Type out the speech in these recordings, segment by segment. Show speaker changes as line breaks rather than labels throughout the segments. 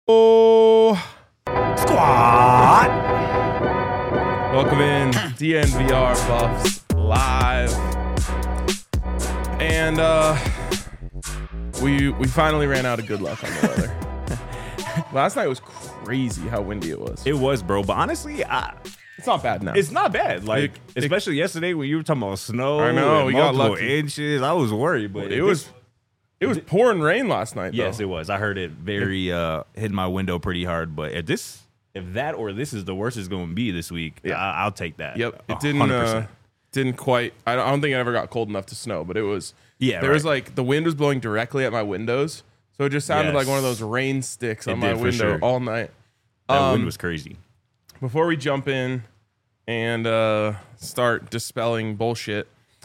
Oh,
Squad.
welcome in DNVR Buffs live, and we finally ran out of good luck on the weather. Last night was crazy how windy it was.
It was, bro. But honestly,
It's not bad now.
it's not bad. Like, especially yesterday when you were talking about snow.
I know,
and
we got
multiple
lucky.
inches. I was worried, but
it was pouring rain last night.
Yes,
though.
it was. I heard it very hit my window pretty hard. But if that or this is the worst it's going to be this week,
Yeah.
I'll take that.
Yep, it
100%.
didn't quite. I don't think it ever got cold enough to snow, but it was.
Yeah,
there was
right.
like the wind was blowing directly at my windows, so it just sounded like
Yes.
one of those rain sticks
It
on my
did, for
window
sure.
all night.
That wind was crazy.
Before we jump in and start dispelling bullshit,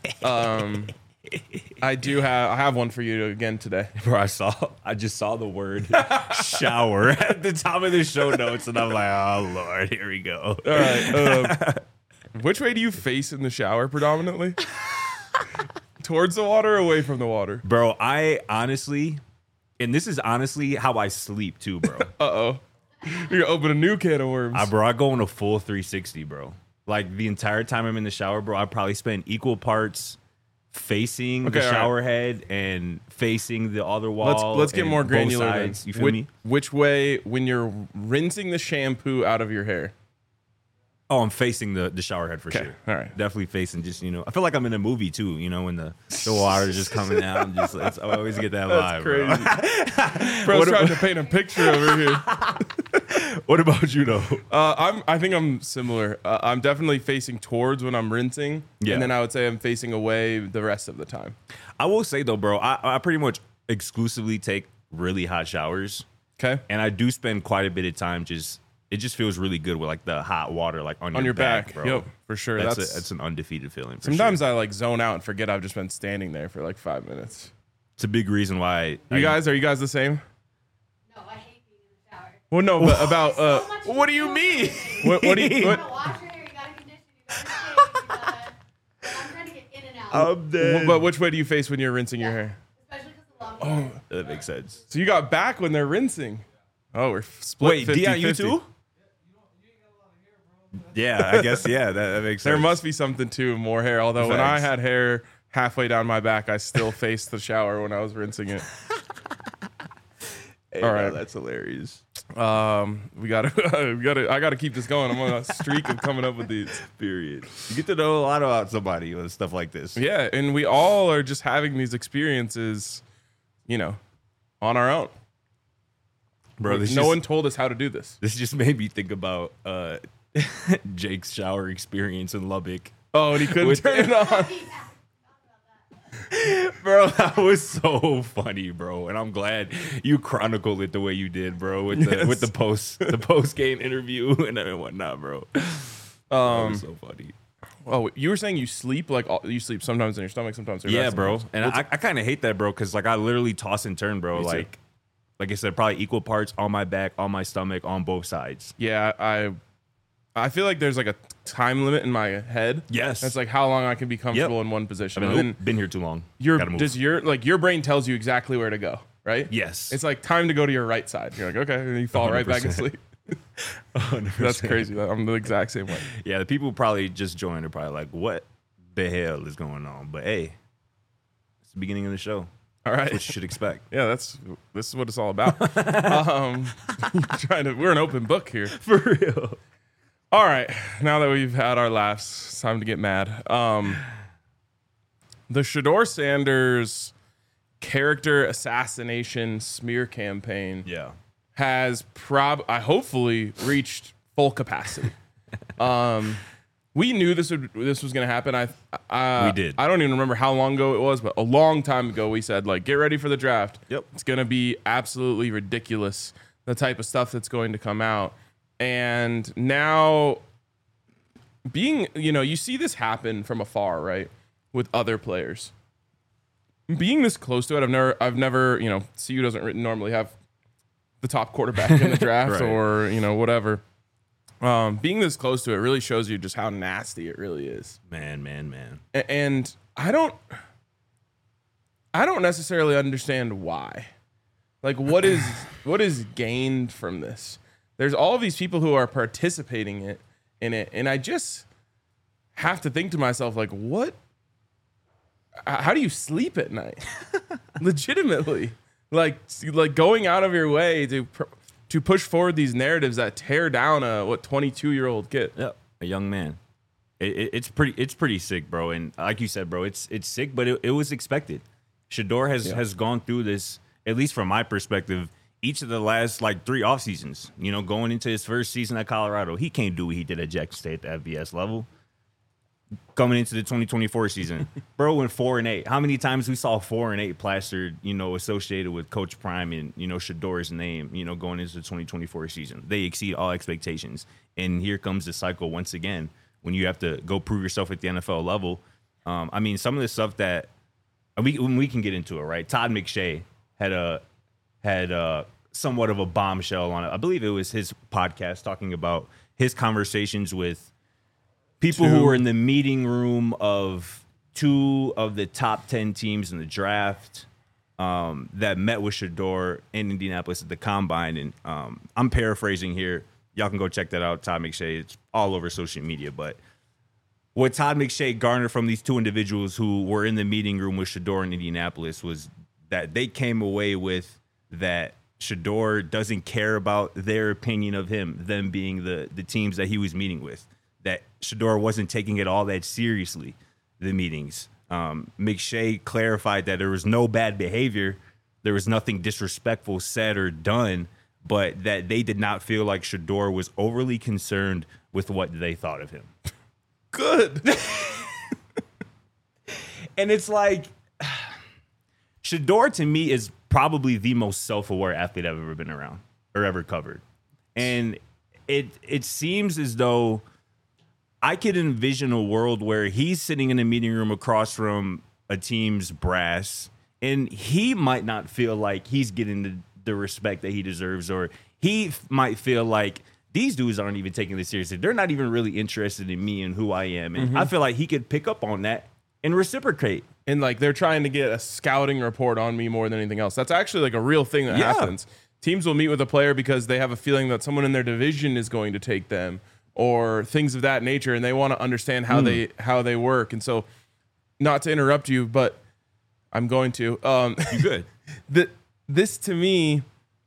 I have one for you again today.
Bro, I just saw the word shower at the top of the show notes, and I'm like, oh Lord, here we go.
All right. Which way do you face in the shower predominantly? Towards the water or away from the water?
Bro, I honestly, and this is honestly how I sleep too, bro.
Uh-oh. You're gonna open a new can of worms.
I go on a full 360, bro. Like the entire time I'm in the shower, bro, I probably spend equal parts facing the
all right.
shower head and facing the other wall.
Let's get
and
more
both
granular.
sides.
Then.
You feel me?
Which way when you're rinsing the shampoo out of your hair?
Oh, I'm facing the shower head for
Okay,
sure.
all right.
Definitely facing just, I feel like I'm in a movie too, when the water's just coming out. And just, I always get that
That's
vibe,
crazy.
bro.
Bro's trying to paint a picture over here.
What about you, though?
I think I'm similar. I'm definitely facing towards when I'm rinsing,
Yeah.
and then I would say I'm facing away the rest of the time.
I will say, though, bro, I pretty much exclusively take really hot showers.
Okay.
And I do spend quite a bit of time it just feels really good with like the hot water like on
your back,
bro.
yep, for sure.
That's an undefeated feeling.
Sometimes I like zone out and forget I've just been standing there for like 5 minutes.
it's a big reason why.
Are you guys the same?
No, I hate being in the shower.
Well, no, but about
So much
what do you mean? What do you?
You
What,
gotta wash your hair, you gotta condition, you gotta shave, you gotta... I'm trying to get in and out.
I'm dead.
but which way do you face when you're rinsing your hair?
Especially because the long hair.
That makes sense.
So you got back when they're rinsing. Oh, we're split.
Wait,
50,
Dion, you
50.
too? Yeah, I guess. Yeah, that makes sense.
There must be something to more hair. Although when I
Facts.
had hair halfway down my back, I still faced the shower when I was rinsing it.
Hey,
all
bro,
right.
that's hilarious.
We gotta. I gotta keep this going. I'm on a streak of coming up with these.
Period. You get to know a lot about somebody with stuff like this.
Yeah, and we all are just having these experiences, on our own.
Bro.
No one told us how to do this.
This just made me think about Jake's shower experience in Lubbock.
Oh, and he couldn't turn it on.
Bro, that was so funny, bro. And I'm glad you chronicled it the way you did, bro, with the post game interview and whatnot, bro. That was so funny.
Oh, you were saying you sleep you sleep sometimes in your stomach, sometimes in your
Yeah,
back,
bro.
sometimes.
And I kind of hate that, bro, because like I literally toss and turn, bro.
Me too.
Like I said, probably equal parts on my back, on my stomach, on both sides.
Yeah, I feel like there's like a time limit in my head.
Yes.
That's like how long I can be comfortable in one position.
I've
And then
been here too long. Gotta move.
your brain tells you exactly where to go, right?
Yes.
It's like time to go to your right side. You're like, okay, and you fall right back
100%.
asleep.
100%.
That's crazy. I'm the exact same way.
Yeah, the people probably just joined are probably like, what the hell is going on? But hey, it's the beginning of the show.
All
That's
right.
what you should expect.
Yeah, this is what it's all about. We're an open book here.
For real.
All right, now that we've had our laughs, it's time to get mad. The Shador Sanders character assassination smear campaign
Yeah.
has hopefully reached full capacity. We knew this was going to happen.
We did.
I don't even remember how long ago it was, but a long time ago we said, like, get ready for the draft.
Yep.
It's going to be absolutely ridiculous, the type of stuff that's going to come out. And now you see this happen from afar, right? With other players. Being this close to it, I've never, CU doesn't normally have the top quarterback in the draft
Right.
or, whatever. Being this close to it really shows you just how nasty it really is.
Man.
And I don't necessarily understand why. Like, what is gained from this? There's all of these people who are participating in it, and I just have to think to myself, like, what? How do you sleep at night? Legitimately, like going out of your way to push forward these narratives that tear down a 22-year-old kid.
Yeah, a young man. It's pretty sick, bro. And like you said, bro, it's sick, but it was expected. Shedeur has gone through this, at least from my perspective, each of the last like 3 off seasons. You know, going into his first season at Colorado, he can't do what he did at Jackson State at the FBS level. Coming into the 2024 season, bro went 4-8. How many times we saw 4-8 plastered, you know, associated with Coach Prime and, you know, Shedeur's name, you know, going into the 2024 season. They exceed all expectations. And here comes the cycle once again when you have to go prove yourself at the NFL level. I mean, some of the stuff that we can get into it, right? Todd McShay had somewhat of a bombshell on it. I believe it was his podcast talking about his conversations with people who were in the meeting room of 2 of the top 10 teams in the draft that met with Shedeur in Indianapolis at the Combine. And I'm paraphrasing here. Y'all can go check that out, Todd McShay. It's all over social media. But what Todd McShay garnered from these 2 individuals who were in the meeting room with Shedeur in Indianapolis was that they came away with that Shedeur doesn't care about their opinion of him, them being the teams that he was meeting with. That Shedeur wasn't taking it all that seriously, the meetings. McShay clarified that there was no bad behavior. There was nothing disrespectful said or done, but that they did not feel like Shedeur was overly concerned with what they thought of him.
Good.
And it's like, Shedeur to me is probably the most self-aware athlete I've ever been around or ever covered. And it seems as though I could envision a world where he's sitting in a meeting room across from a team's brass, and he might not feel like he's getting the respect that he deserves, or he might feel like these dudes aren't even taking this seriously. They're not even really interested in me and who I am. And I feel like he could pick up on that and reciprocate.
And like they're trying to get a scouting report on me more than anything else. That's actually like a real thing that happens. Teams will meet with a player because they have a feeling that someone in their division is going to take them, or things of that nature, and they want to understand how they work. And so, not to interrupt you, but I'm going to.
You good?
This to me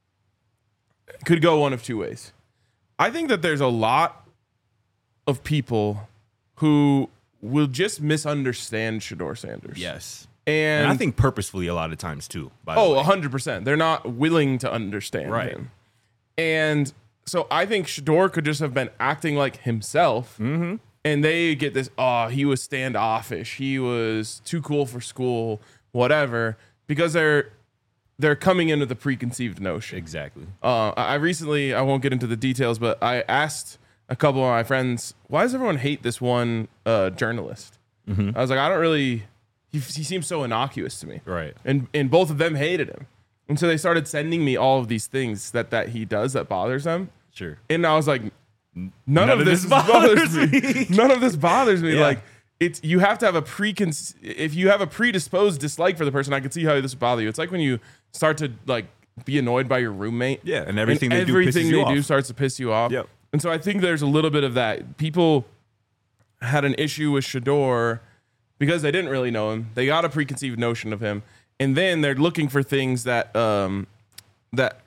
could go one of 2 ways. I think that there's a lot of people who will just misunderstand Shedeur Sanders.
Yes.
And
I think purposefully a lot of times too. By the way.
100%. They're not willing to understand him. And so I think Shedeur could just have been acting like himself, and they get this, he was standoffish, he was too cool for school, whatever, because they're coming into the preconceived notion.
Exactly.
I won't get into the details, but I asked a couple of my friends, why does everyone hate this one journalist? I was like, I don't really, he seems so innocuous to me.
Right.
And both of them hated him. And so they started sending me all of these things that he does that bothers them.
Sure.
And I was like, none of this bothers me. None of this bothers me.
Yeah.
Like, you have to have if you have a predisposed dislike for the person, I can see how this would bother you. It's like when you start to like be annoyed by your roommate.
Yeah, and everything
they do starts to piss you off.
Yep.
And so I think there's a little bit of that. People had an issue with Shedeur because they didn't really know him. They got a preconceived notion of him, and then they're looking for things that that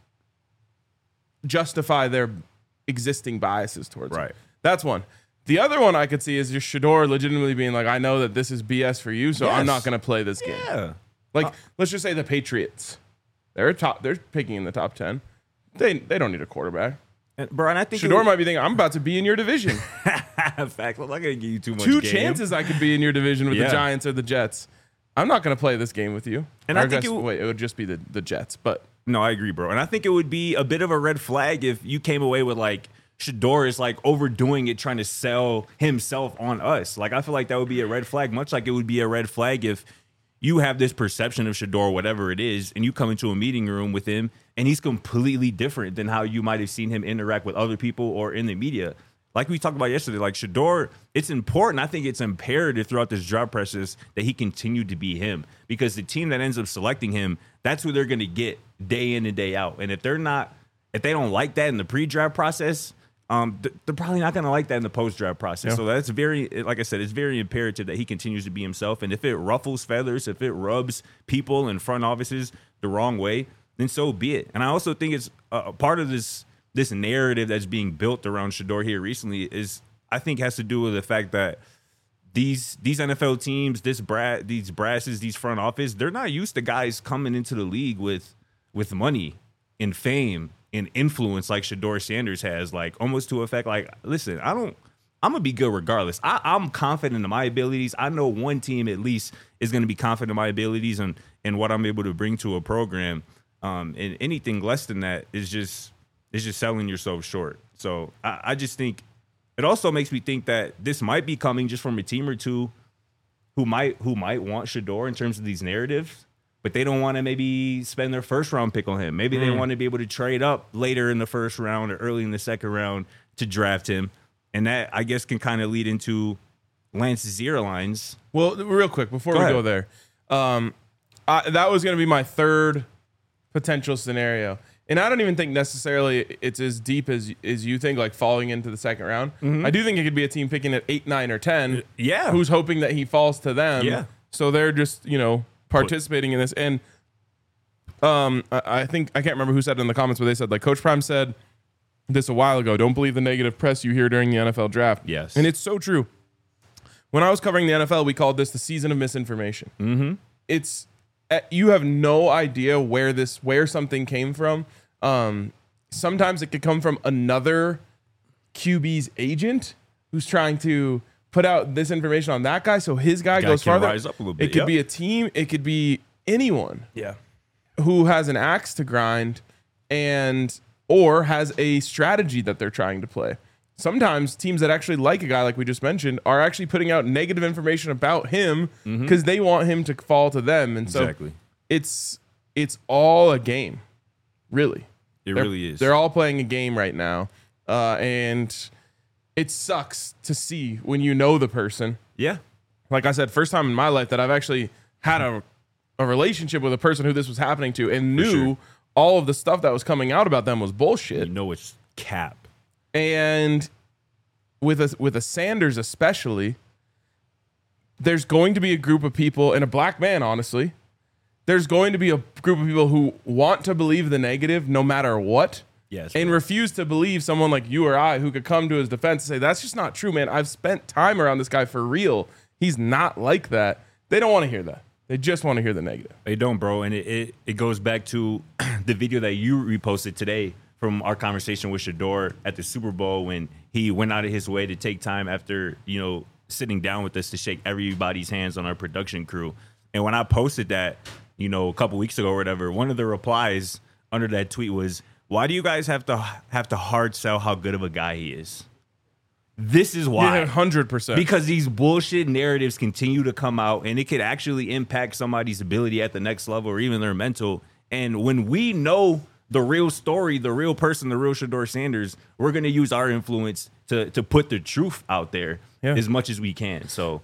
justify their existing biases towards him. That's one. The other one I could see is just Shedeur legitimately being like, I know that this is BS for you, so I'm not going to play this game.
Yeah.
Like, let's just say the Patriots. They're picking in the top 10. They don't need a quarterback.
Bro, and I think
Shedeur might be thinking, I'm about to be in your division.
Fact, I'm not going to give you too much
2
game.
chances I could be in your division with the Giants or the Jets. I'm not going to play this game with you.
And
or
I think
it would just be the Jets. But
no, I agree, bro. And I think it would be a bit of a red flag if you came away with like Shedeur is like overdoing it, trying to sell himself on us. Like, I feel like that would be a red flag, much like it would be a red flag if you have this perception of Shedeur, whatever it is, and you come into a meeting room with him and he's completely different than how you might have seen him interact with other people or in the media. like we talked about yesterday, like Shedeur, it's important. I think it's imperative throughout this draft process that he continue to be him, because the team that ends up selecting him, that's who they're going to get day in and day out. And if they don't like that in the pre-draft process, they're probably not going to like that in the post-draft process. Yeah. So that's very, like I said, it's very imperative that he continues to be himself. And if it ruffles feathers, if it rubs people in front offices the wrong way, then so be it. And I also think it's a part of this narrative that's being built around Shedeur here recently I think has to do with the fact that these NFL teams, these brasses, these front office, they're not used to guys coming into the league with money and fame and influence like Shedeur Sanders has, like almost to effect, like, listen, I'm gonna be good regardless. I'm confident in my abilities. I know one team at least is gonna be confident in my abilities and what I'm able to bring to a program. And anything less than that is just selling yourself short. So I just think it also makes me think that this might be coming just from a team or two who might want Shedeur in terms of these narratives, but they don't want to maybe spend their first round pick on him. Maybe they want to be able to trade up later in the first round or early in the second round to draft him. And that, I guess, can kind of lead into Lance's airlines.
Well, real quick, before we go there, that was going to be my third potential scenario. And I don't even think necessarily it's as deep as you think, like falling into the second round. Mm-hmm. I do think it could be a team picking at 8, 9, or 10.
Yeah.
Who's hoping that he falls to them.
Yeah.
So they're just, participating in this. And I think, I can't remember who said it in the comments, but they said, like, Coach Prime said this a while ago, don't believe the negative press you hear during the NFL draft.
Yes.
And it's so true. When I was covering the NFL, we called this the season of misinformation.
Mm-hmm.
It's, you have no idea where something came from. Sometimes it could come from another QB's agent who's trying to put out this information on that guy, so his guy goes farther.
Rise up a little bit.
It could be a team. It could be anyone.
Yeah.
Who has an axe to grind or has a strategy that they're trying to play. Sometimes teams that actually like a guy like we just mentioned are actually putting out negative information about him because they want him to fall to them. And so it's all a game, really.
It really is.
They're all playing a game right now. And it sucks to see when you know the person.
Yeah.
Like I said, first time in my life that I've actually had a relationship with a person who this was happening to and knew all of the stuff that was coming out about them was bullshit.
You know it's cap.
And with a Sanders especially, there's going to be a group of people, and a black man, honestly, there's going to be a group of people who want to believe the negative no matter what.
Yes.
And refuse to believe someone like you or I who could come to his defense and say, that's just not true, man. I've spent time around this guy for real. He's not like that. They don't want to hear that. They just want to hear the negative.
They don't, bro. And it goes back to the video that you reposted today from our conversation with Shedeur at the Super Bowl when he went out of his way to take time after, sitting down with us to shake everybody's hands on our production crew. And when I posted that, a couple weeks ago or whatever, one of the replies under that tweet was, why do you guys have to hard sell how good of a guy he is? This is why.
Yeah, 100%.
Because these bullshit narratives continue to come out, and it could actually impact somebody's ability at the next level or even their mental. And when we know the real story, the real person, the real Shedeur Sanders, we're going to use our influence to put the truth out there as much as we can. So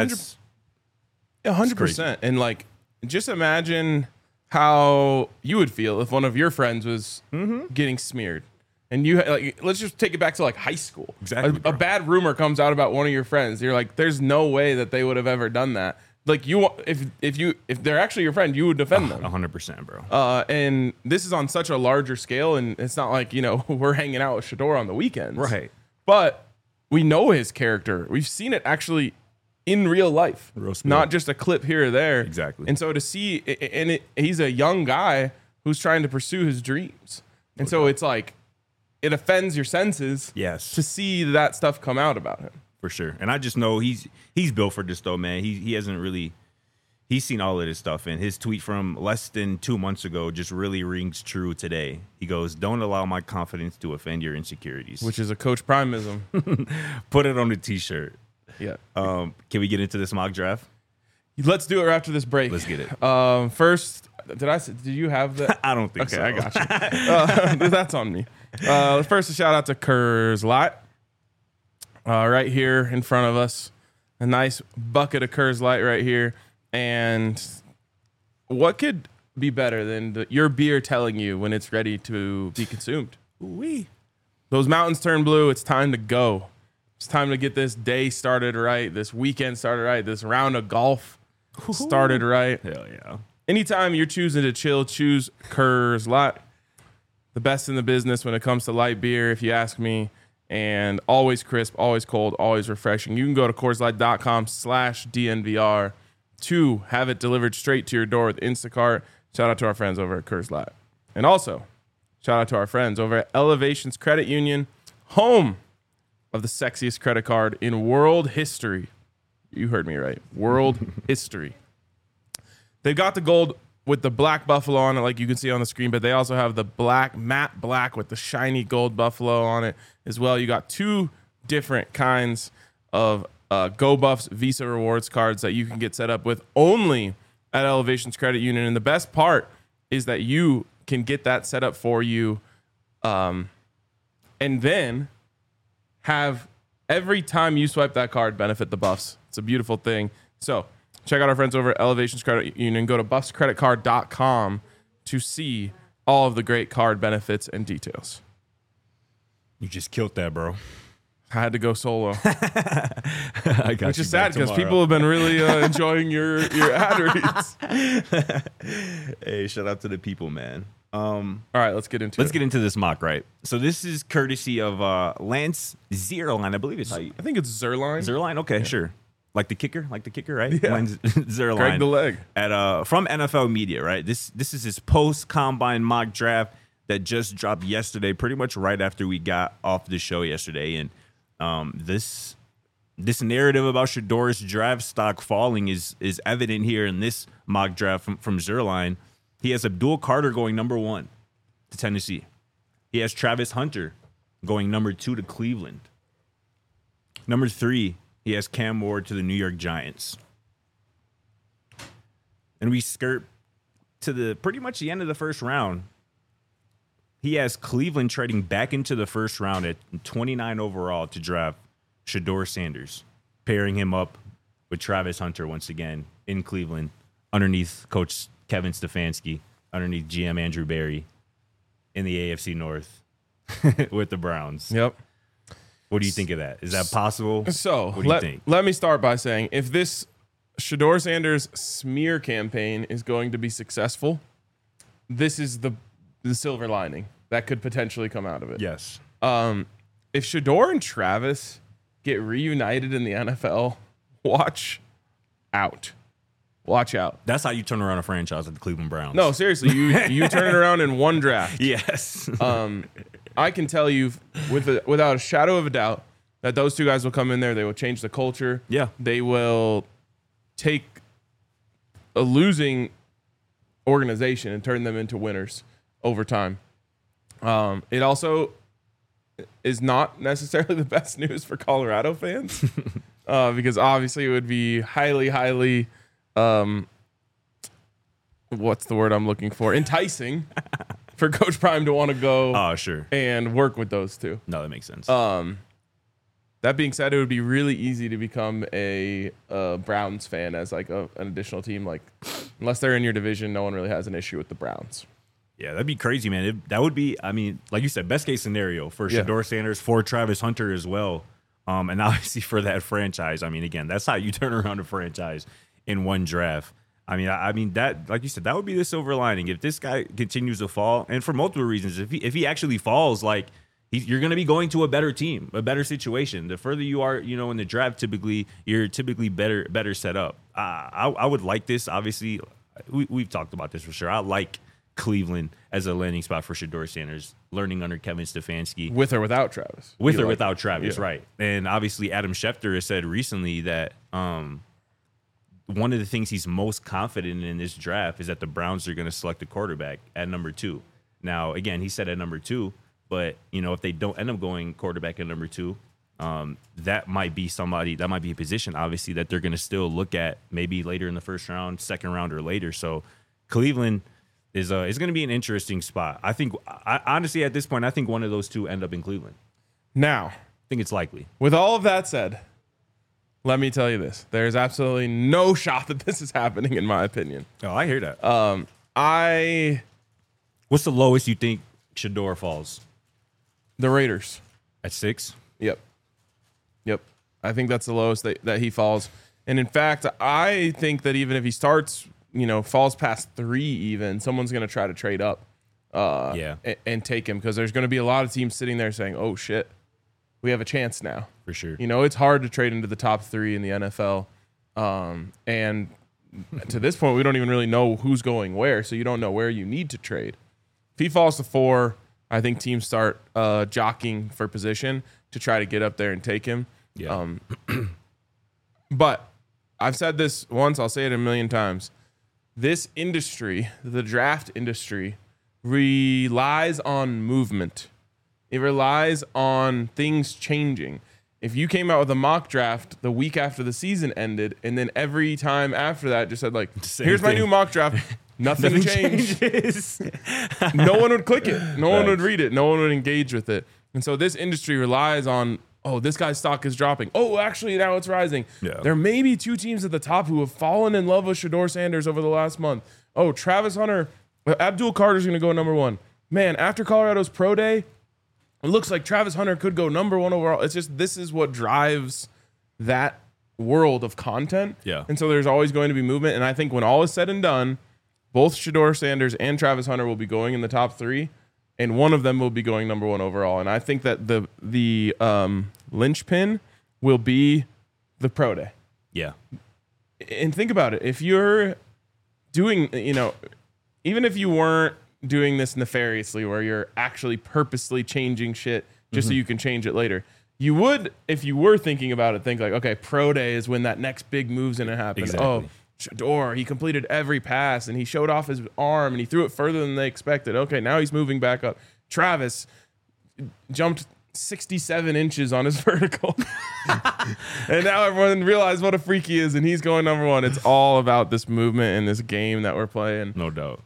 100%. And like, just imagine how you would feel if one of your friends was getting smeared. And you let's just take it back to like high school.
Exactly.
A bad rumor comes out about one of your friends. You're like, there's no way that they would have ever done that. Like if they're actually your friend, you would defend them.
100%, bro.
And this is on such a larger scale, and it's not like we're hanging out with Shedeur on the weekends,
right?
But we know his character. We've seen it actually in real life, not just a clip here or there.
Exactly.
And so to see, he's a young guy who's trying to pursue his dreams, and so it's like it offends your senses, to see that stuff come out about him.
For sure. And I just know he's built for this though, man. He hasn't really he's seen all of this stuff, and his tweet from less than 2 months ago just really rings true today. He goes, "Don't allow my confidence to offend your insecurities,"
which is a Coach Primeism.
Put it on the t-shirt.
Yeah.
Can we get into this mock draft?
Let's do it right after this break.
Let's get it.
First, did you have that?
I don't think so.
Okay, I got you. That's on me. First, a shout out to Kurzlot. right here in front of us. A nice bucket of Coors Light right here. And what could be better than your beer telling you when it's ready to be consumed?
Ooh-wee.
Those mountains turn blue. It's time to go. It's time to get this day started right, this weekend started right, this round of golf started right.
Hell yeah.
Anytime you're choosing to chill, choose Coors Light. The best in the business when it comes to light beer, if you ask me. And always crisp, always cold, always refreshing. You can go to CoorsLight.com/DNVR to have it delivered straight to your door with Instacart. Shout out to our friends over at Coors Light. And also, shout out to our friends over at Elevations Credit Union, home of the sexiest credit card in world history. You heard me right. World history. They've got the gold with the black buffalo on it, like you can see on the screen, but they also have the black, matte black with the shiny gold buffalo on it as well. You got two different kinds of Go Buffs Visa Rewards cards that you can get set up with only at Elevations Credit Union. And the best part is that you can get that set up for you and then have every time you swipe that card benefit the Buffs. It's a beautiful thing. So check out our friends over at Elevations Credit Union. Go to buffscreditcard.com to see all of the great card benefits and details.
You just killed that, bro.
I had to go solo,
I got
which
you
is sad
back
because
tomorrow.
people have been really enjoying your ad reads.
Hey, shout out to the people, man.
All right, let's get into
Let's
it.
get into this mock, right? So this is courtesy of Lance Zierlein, I believe it's how you...
I think it's Zerline.
Zierlein? Okay, sure. Like the kicker, right?
Yeah.
Lance Zierlein.
Greg the leg.
At from NFL Media, right? This is his post-combine mock draft that just dropped yesterday, pretty much right after we got off the show yesterday. And this narrative about Shedor's draft stock falling is evident here in this mock draft from Zierlein. He has Abdul Carter going number 1 to Tennessee. He has Travis Hunter going number 2 to Cleveland. Number 3, he has Cam Ward to the New York Giants. And we skirt to the pretty much the end of the first round. He has Cleveland trading back into the first round at 29 overall to draft Shedeur Sanders, pairing him up with Travis Hunter once again in Cleveland, underneath Coach Kevin Stefanski, underneath GM Andrew Berry in the AFC North with the Browns.
Yep.
What do you think of that? Is that possible?
So
what do you think?
let me start by saying if this Shedeur Sanders smear campaign is going to be successful, this is the silver lining that could potentially come out of it.
Yes.
If Shedeur and Travis get reunited in the NFL, watch out. Watch out.
That's how you turn around a franchise at the Cleveland Browns.
No, seriously, you turn it around in one draft.
Yes.
I can tell you without a shadow of a doubt that those two guys will come in there. They will change the culture.
Yeah.
They will take a losing organization and turn them into winners over time. It also is not necessarily the best news for Colorado fans because obviously it would be highly what's the word I'm looking for? Enticing for Coach Prime to want to go
Oh, sure.
and work with those two.
No, that makes sense.
That being said, it would be really easy to become a Browns fan as like an additional team. Like, unless they're in your division, no one really has an issue with the Browns.
Yeah, that'd be crazy, man. That would be, I mean, like you said, best case scenario for
Yeah.
Shedeur Sanders, for Travis Hunter as well. And obviously for that franchise. I mean, again, that's how you turn around a franchise in one draft. I mean that, like you said, that would be the silver lining. If this guy continues to fall, and for multiple reasons, if he actually falls, like you're going to be going to a better team, a better situation. The further you are, in the draft, you're typically better set up. I would like this. Obviously, we've talked about this for sure. I like Cleveland as a landing spot for Shedeur Sanders, learning under Kevin Stefanski.
With or without Travis.
With or without Travis,
Yeah.
right. And obviously Adam Schefter has said recently that one of the things he's most confident in this draft is that the Browns are going to select a quarterback at number 2. Now, again, he said at number 2, but, if they don't end up going quarterback at number 2, that might be a position, obviously, that they're going to still look at maybe later in the first round, second round, or later. So Cleveland is going to be an interesting spot. Honestly, at this point, I think one of those two end up in Cleveland.
Now,
think it's likely.
With all of that said, let me tell you this. There's absolutely no shot that this is happening, in my opinion.
Oh, I hear that. What's the lowest you think Shedeur falls?
The Raiders.
At 6?
Yep. I think that's the lowest that he falls. And in fact, I think that even if he starts, falls past 3 even, someone's going to try to trade up and take him, because there's going to be a lot of teams sitting there saying, oh, shit, we have a chance now.
For sure.
It's hard to trade into the top 3 in the NFL. And to this point, we don't even really know who's going where, so you don't know where you need to trade. If he falls to 4, I think teams start jockeying for position to try to get up there and take him.
Yeah.
But I've said this once, I'll say it a million times. This industry, the draft industry, relies on movement. It relies on things changing. If you came out with a mock draft the week after the season ended, and then every time after that just said, like, here's my new mock draft, nothing changed. No one would click it. No one would read it. No one would engage with it. And so this industry relies on, oh, this guy's stock is dropping. Oh, actually, now it's rising.
Yeah.
There may be 2 teams at the top who have fallen in love with Shedeur Sanders over the last month. Oh, Travis Hunter, Abdul Carter's going to go number 1. Man, after Colorado's pro day, it looks like Travis Hunter could go number 1 overall. It's just, this is what drives that world of content.
Yeah.
And so there's always going to be movement. And I think when all is said and done, both Shedeur Sanders and Travis Hunter will be going in the top 3, and one of them will be going number 1 overall. And I think that the linchpin will be the pro day.
Yeah.
And think about it. If you're doing, even if you weren't doing this nefariously, where you're actually purposely changing shit just so you can change it later, you would, if you were thinking about it, think like, okay, pro day is when that next big move's going to happen.
Exactly.
Oh, Shedeur, he completed every pass and he showed off his arm and he threw it further than they expected. Okay, now he's moving back up. Travis jumped 67 inches on his vertical. And now everyone realized what a freak he is, and he's going number 1. It's all about this movement and this game that we're playing.
No doubt.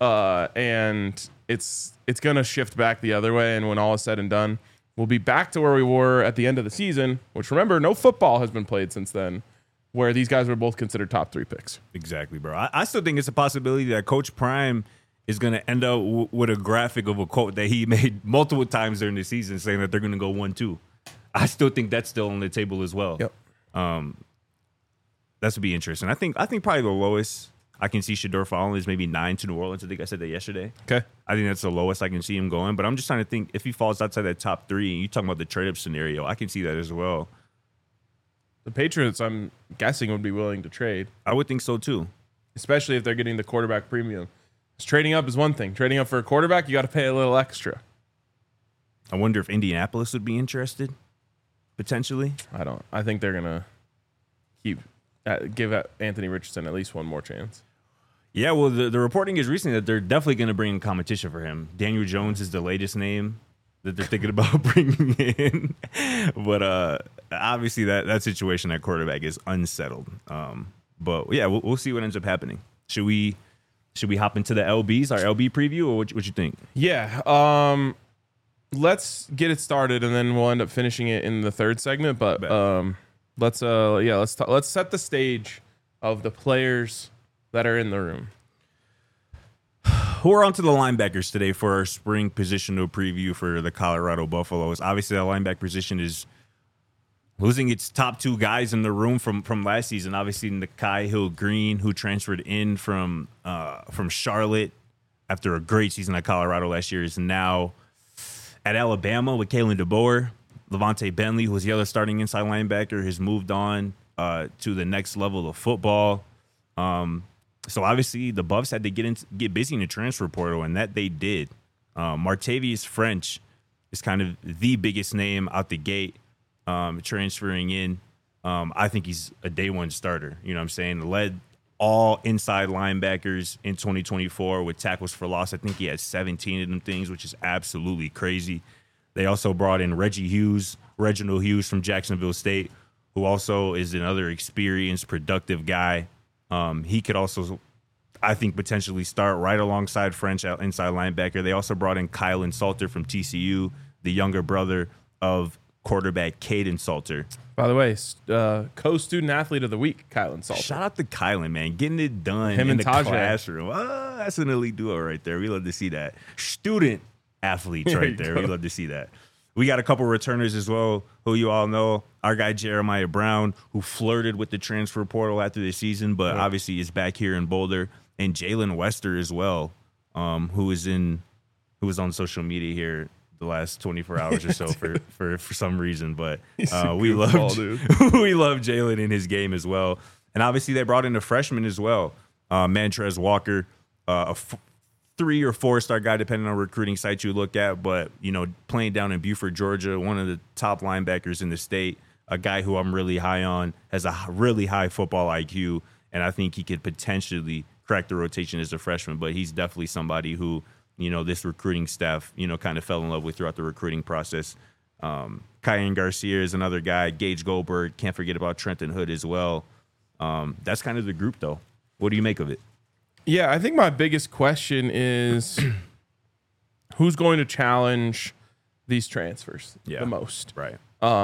And it's going to shift back the other way, and when all is said and done, we'll be back to where we were at the end of the season, which, remember, no football has been played since then, where these guys were both considered top 3 picks.
Exactly, bro. I still think it's a possibility that Coach Prime is going to end up with a graphic of a quote that he made multiple times during the season saying that they're going to go 1-2. I still think that's still on the table as well.
Yep.
That would be interesting. I think probably the lowest I can see Shedeur falling is maybe 9 to New Orleans. I think I said that yesterday.
Okay.
I think that's the lowest I can see him going. But I'm just trying to think, if he falls outside that top 3, and you're talking about the trade-up scenario, I can see that as well.
The Patriots, I'm guessing, would be willing to trade,
I would think so too.
especially if they're getting the quarterback premium. Because trading up is one thing. Trading up for a quarterback, you got to pay a little extra.
I wonder if Indianapolis would be interested, potentially.
I think they're going to give Anthony Richardson at least one more chance.
Yeah, well, the reporting is recently that they're definitely going to bring in competition for him. Daniel Jones is the latest name that they're thinking about bringing in. But obviously that situation at quarterback is unsettled. But yeah, we'll see what ends up happening. Should we hop into the LBs, our LB preview, or what you think?
Yeah. Let's get it started, and then we'll end up finishing it in the third segment. But let's set the stage of the players that are in the room.
We're on to the linebackers today for our spring positional preview for the Colorado Buffaloes. Obviously, the linebacker position is losing its top 2 guys in the room from last season. Obviously, Nakai Hill-Green, who transferred in from Charlotte after a great season at Colorado last year, is now at Alabama with Kalen DeBoer. Levante Bentley, who was the other starting inside linebacker, has moved on to the next level of football. So obviously the Buffs had to get busy in the transfer portal, and that they did. Martavius French is kind of the biggest name out the gate, transferring in. I think he's a day one starter. You know what I'm saying? Led all inside linebackers in 2024 with tackles for loss. I think he had 17 of them things, which is absolutely crazy. They also brought in Reginald Hughes from Jacksonville State, who also is another experienced, productive guy. He could also, I think, potentially start right alongside French inside linebacker. They also brought in Kylan Salter from TCU, the younger brother of quarterback Caden Salter.
By the way, co-student athlete of the week, Kylan Salter.
Shout out to Kylan, man, getting it done
Him
in
and
the
Tajay.
classroom. That's an elite duo right there. We love to see that. Student athletes right there. We love to see that. We got a couple returners as well, who you all know. Our guy Jeremiah Brown, who flirted with the transfer portal after the season, but obviously is back here in Boulder, and Jalen Wester as well, who was on social media here the last 24 hours or so for some reason, but we love Jalen in his game as well. And obviously they brought in a freshman as well, Mantrez Walker, a 3 or 4-star guy depending on recruiting sites you look at, but playing down in Buford, Georgia, one of the top linebackers in the state, a guy who I'm really high on, has a really high football IQ, and I think he could potentially crack the rotation as a freshman, but he's definitely somebody who this recruiting staff, kind of fell in love with throughout the recruiting process. Kyan Garcia is another guy. Gage Goldberg. Can't forget about Trenton Hood as well. That's kind of the group, though. What do you make of it?
Yeah, I think my biggest question is who's going to challenge these transfers the most?
Right.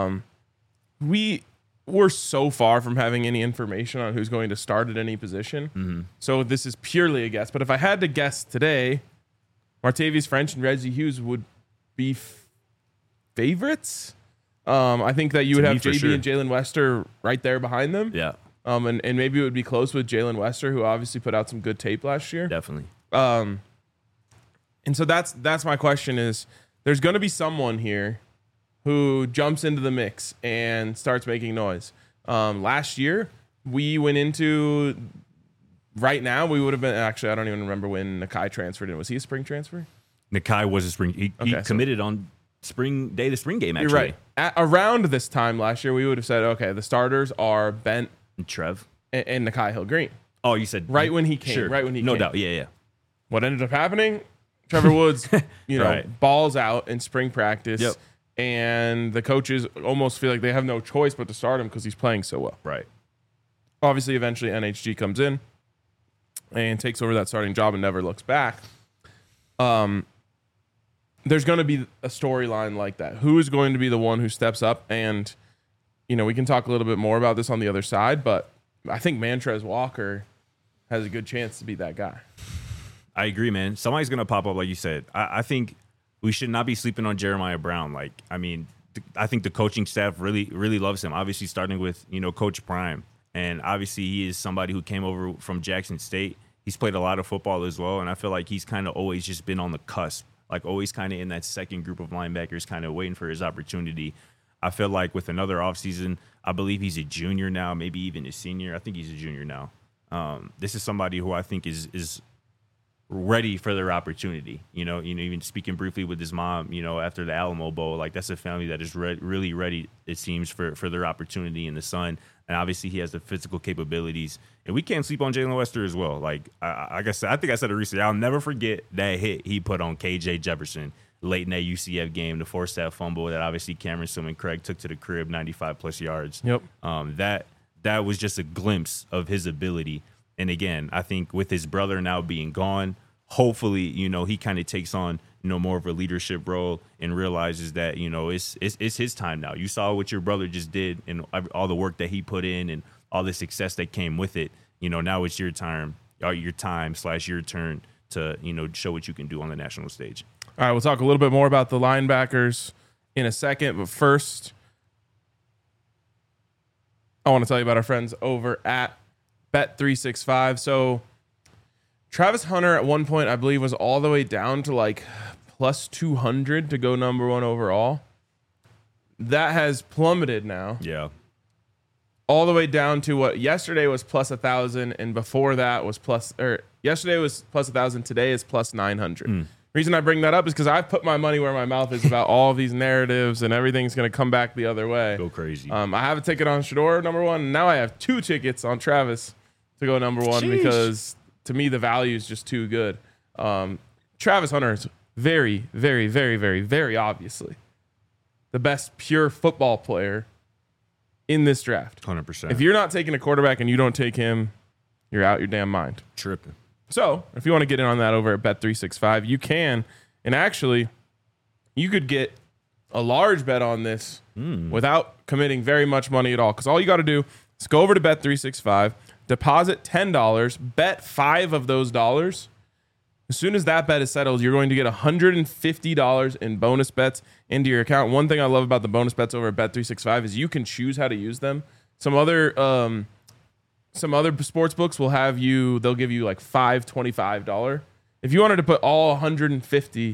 We were so far from having any information on who's going to start at any position.
Mm-hmm.
So this is purely a guess. But if I had to guess today, Martavius French and Reggie Hughes would be favorites. I think that you would have JB and Jalen Wester right there behind them.
Yeah.
And maybe it would be close with Jalen Wester, who obviously put out some good tape last year.
Definitely.
And so that's my question is there's going to be someone here who jumps into the mix and starts making noise. Last year, we went into right now, we would have been actually, I don't even remember when Nakai transferred in. Was he a spring transfer?
Nakai was a spring. He committed on spring day, the spring game, actually.
You're right. Around this time last year, we would have said, okay, the starters are Bent
and Trev
and Nakai Hill Green.
Oh, you said
right when he came.
Sure.
Right when he
no
came.
doubt. Yeah.
What ended up happening? Trevor Woods,
Right.
balls out in spring practice.
Yep.
And the coaches almost feel like they have no choice but to start him because he's playing so well.
Right.
Obviously, eventually NHG comes in and takes over that starting job and never looks back. There's going to be a storyline like that. Who is going to be the one who steps up? And, we can talk a little bit more about this on the other side, but I think Mantrez Walker has a good chance to be that guy.
I agree, man. Somebody's going to pop up, like you said. I think we should not be sleeping on Jeremiah Brown. I think the coaching staff really, really loves him. Obviously, starting with, Coach Prime. And obviously, he is somebody who came over from Jackson State. He's played a lot of football as well. And I feel like he's kind of always just been on the cusp, like always kind of in that second group of linebackers, kind of waiting for his opportunity. I feel like with another offseason, I believe he's a junior now, maybe even a senior. I think he's a junior now. This is somebody who I think is ready for their opportunity. Even speaking briefly with his mom, after the Alamo Bowl, like that's a family that is really ready, it seems, for their opportunity in the sun. And obviously he has the physical capabilities. And we can't sleep on Jalen Wester as well. Like I think I said it recently, I'll never forget that hit he put on KJ Jefferson late in that UCF game, the forced that fumble that obviously Cameron Summan Craig took to the crib, 95+ yards.
Yep.
That was just a glimpse of his ability. And again, I think with his brother now being gone, hopefully, he kind of takes on, more of a leadership role and realizes that, it's his time now. You saw what your brother just did and all the work that he put in and all the success that came with it. Now it's your time / your turn to, show what you can do on the national stage.
All right, we'll talk a little bit more about the linebackers in a second. But first, I want to tell you about our friends over at Bet365. So Travis Hunter at one point, I believe, was all the way down to like plus 200 to go number 1 overall. That has plummeted now.
Yeah.
All the way down to what yesterday was plus 1,000, and before that was yesterday was plus 1,000. Today is plus 900. Reason I bring that up is because I put my money where my mouth is about all of these narratives, and everything's going to come back the other way.
Go crazy.
I have a ticket on Shador number 1. And now I have 2 tickets on Travis to go number 1.
Sheesh.
Because to me the value is just too good. Travis Hunter is very, very, very, very, very obviously the best pure football player in this draft.
100%.
If you're not taking a quarterback and you don't take him, you're out your damn mind.
Tripping.
So if you want to get in on that over at Bet365, you can. And actually, you could get a large bet on this without committing very much money at all. Because all you got to do is go over to Bet365, deposit $10, bet 5 of those dollars. As soon as that bet is settled, you're going to get $150 in bonus bets into your account. One thing I love about the bonus bets over at Bet365 is you can choose how to use them. Some other sports books will they'll give you like $25. If you wanted to put all 150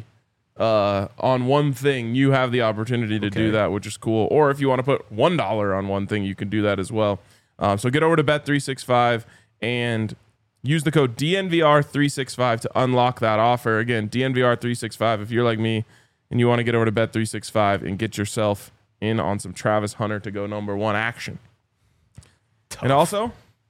on one thing, you have the opportunity to do that, which is cool. Or if you want to put $1 on one thing, you can do that as well. So get over to Bet365 and use the code DNVR365 to unlock that offer. Again, DNVR365 if you're like me and you want to get over to Bet365 and get yourself in on some Travis Hunter to go #1 action. Tough. And also,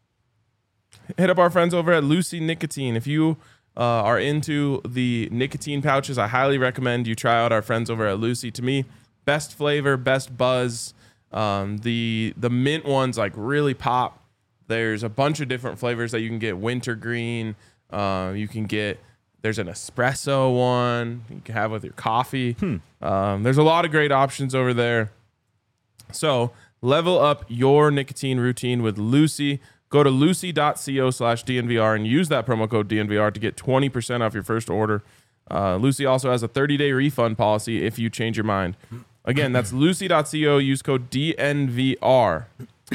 hit up our friends over at Lucy Nicotine. If you are into the nicotine pouches, I highly recommend you try out our friends over at Lucy. To me, best flavor, best buzz. The mint ones like really pop. There's a bunch of different flavors that you can get. Wintergreen. There's an espresso one you can have with your coffee. There's a lot of great options over there. So level up your nicotine routine with Lucy. Go to lucy.co/DNVR and use that promo code DNVR to get 20% off your first order. Lucy also has a 30-day refund policy if you change your mind. Again, that's lucy.co. Use code DNVR.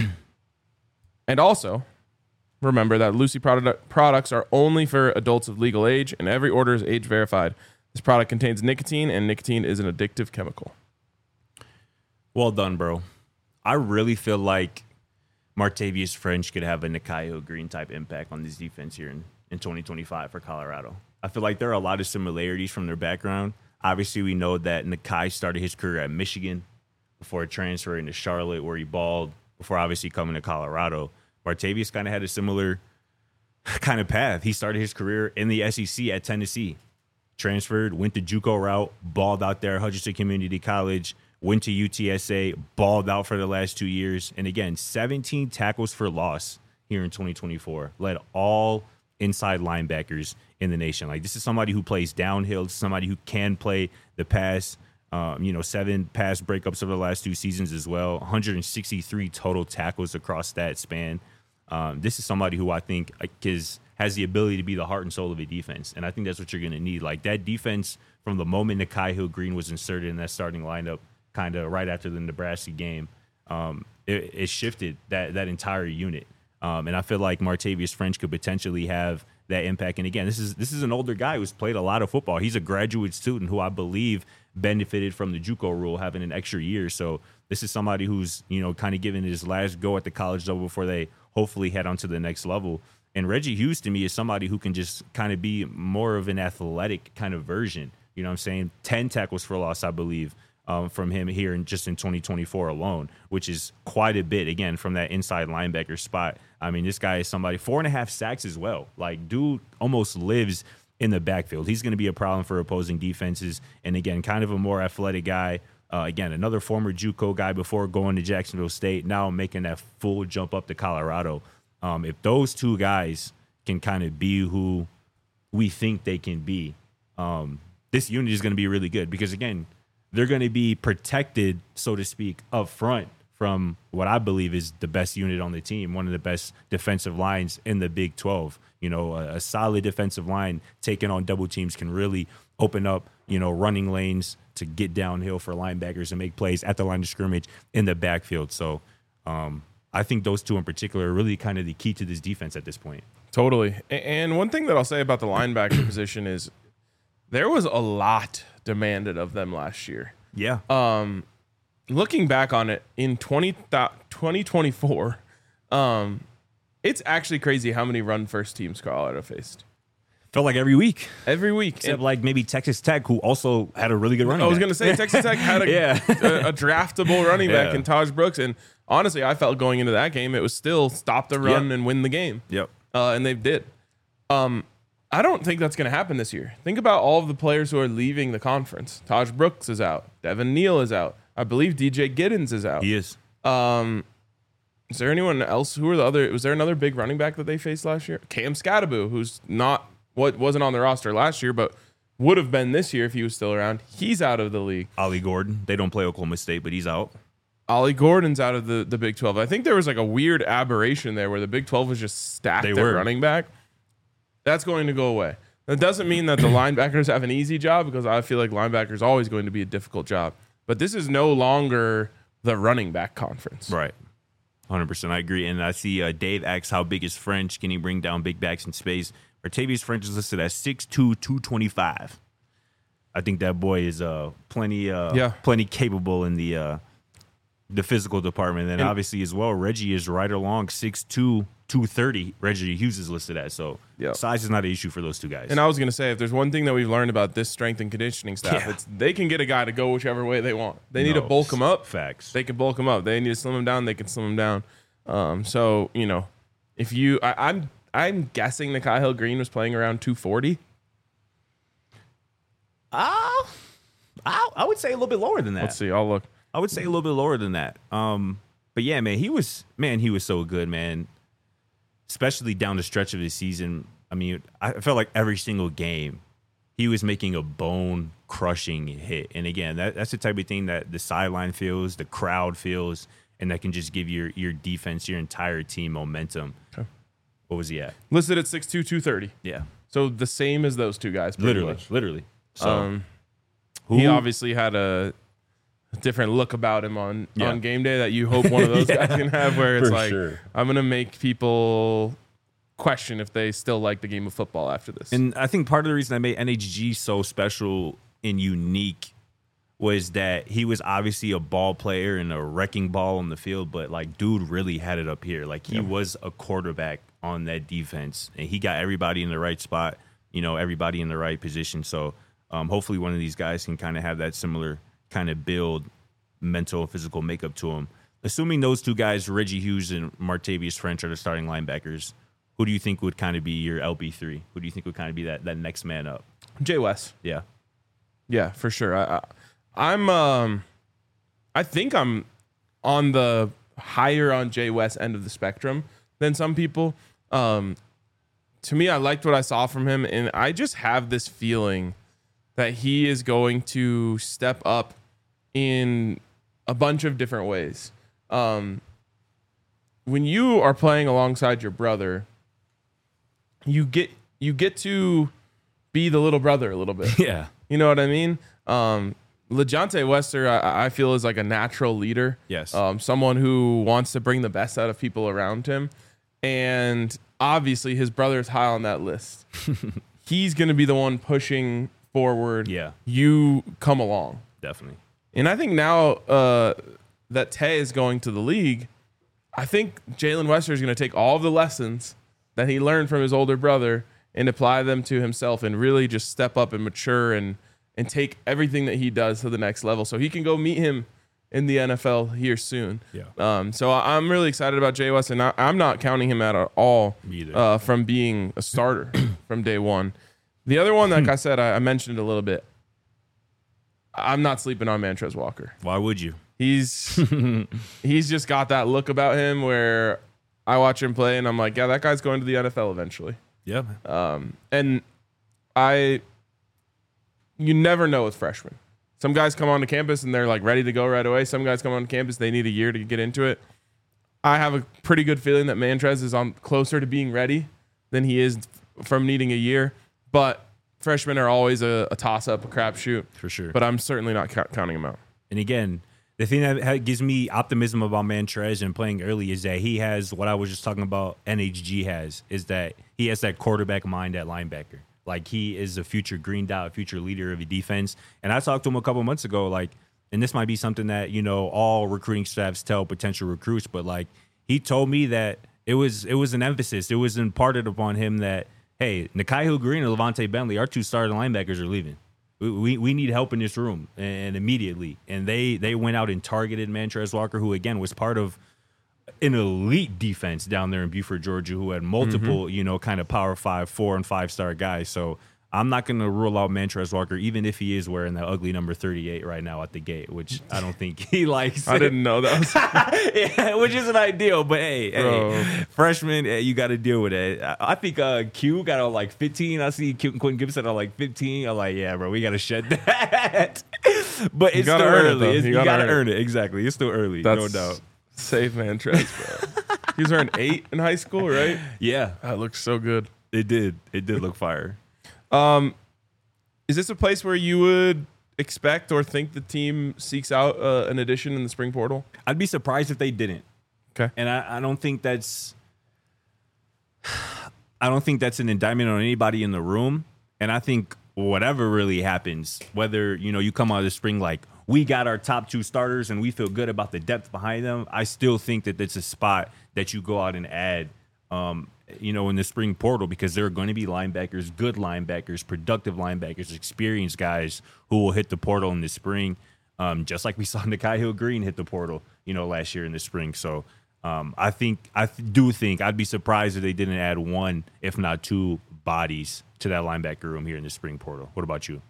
And also, remember that Lucy products are only for adults of legal age, and every order is age verified. This product contains nicotine, and nicotine is an addictive chemical.
Well done, bro. I really feel like Martavius French could have a Nikhai Green type impact on this defense here in 2025 for Colorado. I feel like there are a lot of similarities from their background. Obviously, we know that Nikhai started his career at Michigan before transferring to Charlotte, where he balled, before obviously coming to Colorado. Martavius kind of had a similar kind of path. He started his career in the SEC at Tennessee, transferred, went the JUCO route, balled out there at Hutchinson Community College, went to UTSA, balled out for the last 2 years. And again, 17 tackles for loss here in 2024. Led all inside linebackers in the nation. Like, this is somebody who plays downhill, somebody who can play the pass. 7 pass breakups over the last 2 seasons as well. 163 total tackles across that span. This is somebody who I think has the ability to be the heart and soul of a defense. And I think that's what you're going to need. Like, that defense, from the moment Nikhai Green was inserted in that starting lineup, kind of right after the Nebraska game, it shifted that entire unit. And I feel like Martavius French could potentially have that impact. And again, this is an older guy who's played a lot of football. He's a graduate student who I believe benefited from the JUCO rule, having an extra year. So this is somebody who's, kind of giving his last go at the college level before they hopefully head on to the next level. And Reggie Hughes, to me, is somebody who can just kind of be more of an athletic kind of version. You know what I'm saying? 10 tackles for loss, I believe, from him here in 2024 alone, which is quite a bit, again, from that inside linebacker spot. I mean, this guy is somebody, 4.5 sacks as well. Like, dude almost lives in the backfield. He's going to be a problem for opposing defenses. And again, kind of a more athletic guy. Again, another former JUCO guy before going to Jacksonville State, now making that full jump up to Colorado. If those two guys can kind of be who we think they can be, this unit is going to be really good because, again, they're going to be protected, so to speak, up front from what I believe is the best unit on the team, one of the best defensive lines in the Big 12. A solid defensive line taking on double teams can really open up, running lanes to get downhill for linebackers and make plays at the line of scrimmage in the backfield. So I think those two in particular are really kind of the key to this defense at this point.
Totally. And one thing that I'll say about the linebacker position is there was a lot demanded of them last year.
Yeah.
Looking back on it in 2024, it's actually crazy how many run first teams Colorado faced.
Felt like every week.
Every week.
Except like maybe Texas Tech, who also had a really good running back.
I was going to say Texas Tech had a draftable running back in Taj Brooks. And honestly, I felt going into that game, it was still stop the run and win the game.
Yep.
And they did. I don't think that's going to happen this year. Think about all of the players who are leaving the conference. Taj Brooks is out. Devin Neal is out. I believe DJ Giddens is out.
He is.
Is there anyone else? Who are the other? Was there another big running back that they faced last year? Cam Scattaboo, who's wasn't on the roster last year, but would have been this year if he was still around. He's out of the league.
Ollie Gordon. They don't play Oklahoma State, but he's out.
Ollie Gordon's out of the Big 12. I think there was like a weird aberration there where the Big 12 was just stacked at running back. That's going to go away. That doesn't mean that the linebackers have an easy job, because I feel like linebacker is always going to be a difficult job. But this is no longer the running back conference.
Right. 100%. I agree. And I see Dave asks, how big is French? Can he bring down big backs in space? Martavius French is listed as 6'2", 225. I think that boy is plenty capable in the physical department. And obviously as well, Reggie is right along 6'2", 230. Reggie Hughes is listed as. So size is not an issue for those two guys.
And I was going to say, if there's one thing that we've learned about this strength and conditioning staff, it's they can get a guy to go whichever way they want. They need to bulk him up.
Facts.
They can bulk him up. They need to slim him down. They can slim him down. So, you know, if you, I'm guessing that Kyle Green was playing around 240.
I would say a little bit lower than that.
Let's see. I'll look.
I would say a little bit lower than that. But yeah, man, he was so good, man. Especially down the stretch of the season. I mean, I felt like every single game he was making a bone-crushing hit. And again, that's the type of thing that the sideline feels, the crowd feels, and that can just give your defense, your entire team momentum. Okay. What was he at?
Listed at 6'2", 230.
Yeah.
So the same as those two guys.
Literally. So
he obviously had a different look about him on game day that you hope one of those guys can have, where it's like, I'm going to make people question if they still like the game of football after this.
And I think part of the reason I made NHG so special and unique was that he was obviously a ball player and a wrecking ball on the field, but like dude really had it up here. Like he was a quarterback on that defense, and he got everybody in the right spot, you know, everybody in the right position. So hopefully one of these guys can kind of have that similar kind of build, mental and physical makeup to him. Assuming those two guys, Reggie Hughes and Martavius French, are the starting linebackers, who do you think would kind of be your LB3? Who do you think would kind of be that next man up?
Jay West.
Yeah.
Yeah, for sure. I think I'm on the higher on Jay West end of the spectrum than some people. To me, I liked what I saw from him, and I just have this feeling that he is going to step up in a bunch of different ways. When you are playing alongside your brother, you get to be the little brother a little bit.
Yeah.
You know what I mean? LeJontay Wester, I feel, is like a natural leader.
Yes.
Someone who wants to bring the best out of people around him. And obviously his brother is high on that list. He's going to be the one pushing forward.
Yeah.
You come along.
Definitely.
And I think now that Tay is going to the league, I think Jalen Wester is going to take all of the lessons that he learned from his older brother and apply them to himself and really just step up and mature and take everything that he does to the next level so he can go meet him in the NFL here soon.
Yeah.
So I'm really excited about Jay West, and I'm not counting him at all from being a starter from day one. The other one, like I said, I mentioned it a little bit. I'm not sleeping on Mantrez Walker.
Why would you?
He's just got that look about him where I watch him play and I'm like, yeah, that guy's going to the NFL eventually.
Yeah.
And you never know with freshmen. Some guys come onto campus and they're like ready to go right away. Some guys come on campus, they need a year to get into it. I have a pretty good feeling that Mantrez is on closer to being ready than he is from needing a year. But freshmen are always a toss-up, a crapshoot.
For sure.
But I'm certainly not counting him out.
And again, the thing that gives me optimism about Mantrez and playing early is that he has what I was just talking about NHG has, is that he has that quarterback mind at linebacker. Like, he is a future green dot, future leader of a defense. And I talked to him a couple months ago, like, and this might be something that, you know, all recruiting staffs tell potential recruits, but like, he told me that it was an emphasis. It was imparted upon him that, hey, Nikhai Green and Levante Bentley, our two starting linebackers, are leaving. We need help in this room, and immediately. And they went out and targeted Mantrez Walker, who again was part of an elite defense down there in Buford, Georgia, who had multiple, you know, kind of Power 5, 4, and 5-star guys. So I'm not going to rule out Montrezl Walker, even if he is wearing that ugly number 38 right now at the gate, which I don't think he likes.
I didn't know that was.
Yeah, which isn't ideal, but
Bro.
hey, freshman, you got to deal with it. I think Q got on like 15. I see Quentin Gibson on like 15. I'm like, yeah, bro, we got to shed that. But it's still
gotta earn it, though.
early.
You
You
gotta
got to
earn
earn it. Exactly. It's still early, no doubt.
Save Montrez, bro. He was wearing 8 in high school, right?
Yeah,
That looked so good.
it did. It did look fire.
Is this a place where you would expect or think the team seeks out an addition in the spring portal?
I'd be surprised if they didn't.
Okay.
And I don't think that's an indictment on anybody in the room. And I think whatever really happens, whether you come out of the spring like we got our top 2 starters and we feel good about the depth behind them, I still think that it's a spot that you go out and add in the spring portal, because there are going to be linebackers, good linebackers, productive linebackers, experienced guys who will hit the portal in the spring, just like we saw Nikhai Hill-Green hit the portal, last year in the spring. So I do think I'd be surprised if they didn't add 1, if not 2 bodies to that linebacker room here in the spring portal. What about you?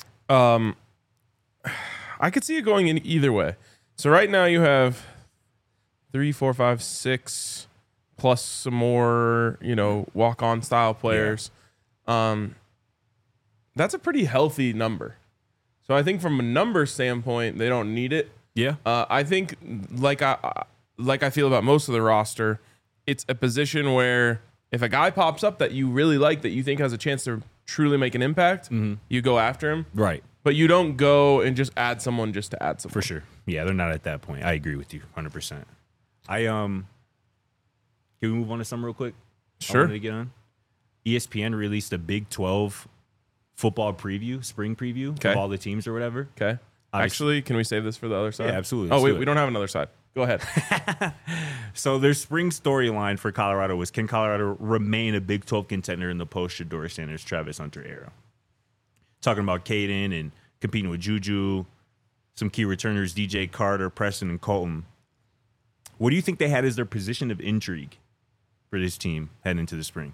I could see it going in either way. So right now you have 3, 4, 5, 6 plus some more, walk-on style players. That's a pretty healthy number. So I think from a number standpoint, they don't need it.
Yeah.
I think like I feel about most of the roster, it's a position where if a guy pops up that you really like, that you think has a chance to truly make an impact, you go after him.
Right.
But you don't go and just add someone just to add someone.
For sure. Yeah, they're not at that point. I agree with you 100%. Can we move on to some real quick?
Sure.
I wanted to get on. ESPN released a Big 12 football preview, spring preview
Okay.
of all the teams or whatever.
Okay. Actually, can we save this for the other side?
Yeah, absolutely.
Oh,
Let's
wait,
do it.
we don't have another side. Go ahead.
So their spring storyline for Colorado was, can Colorado remain a Big 12 contender in the post-Shedeur Sanders, Travis Hunter era? Talking about Caden and competing with Juju, some key returners, DJ Carter, Preston, and Colton. What do you think they had as their position of intrigue for this team heading into the spring?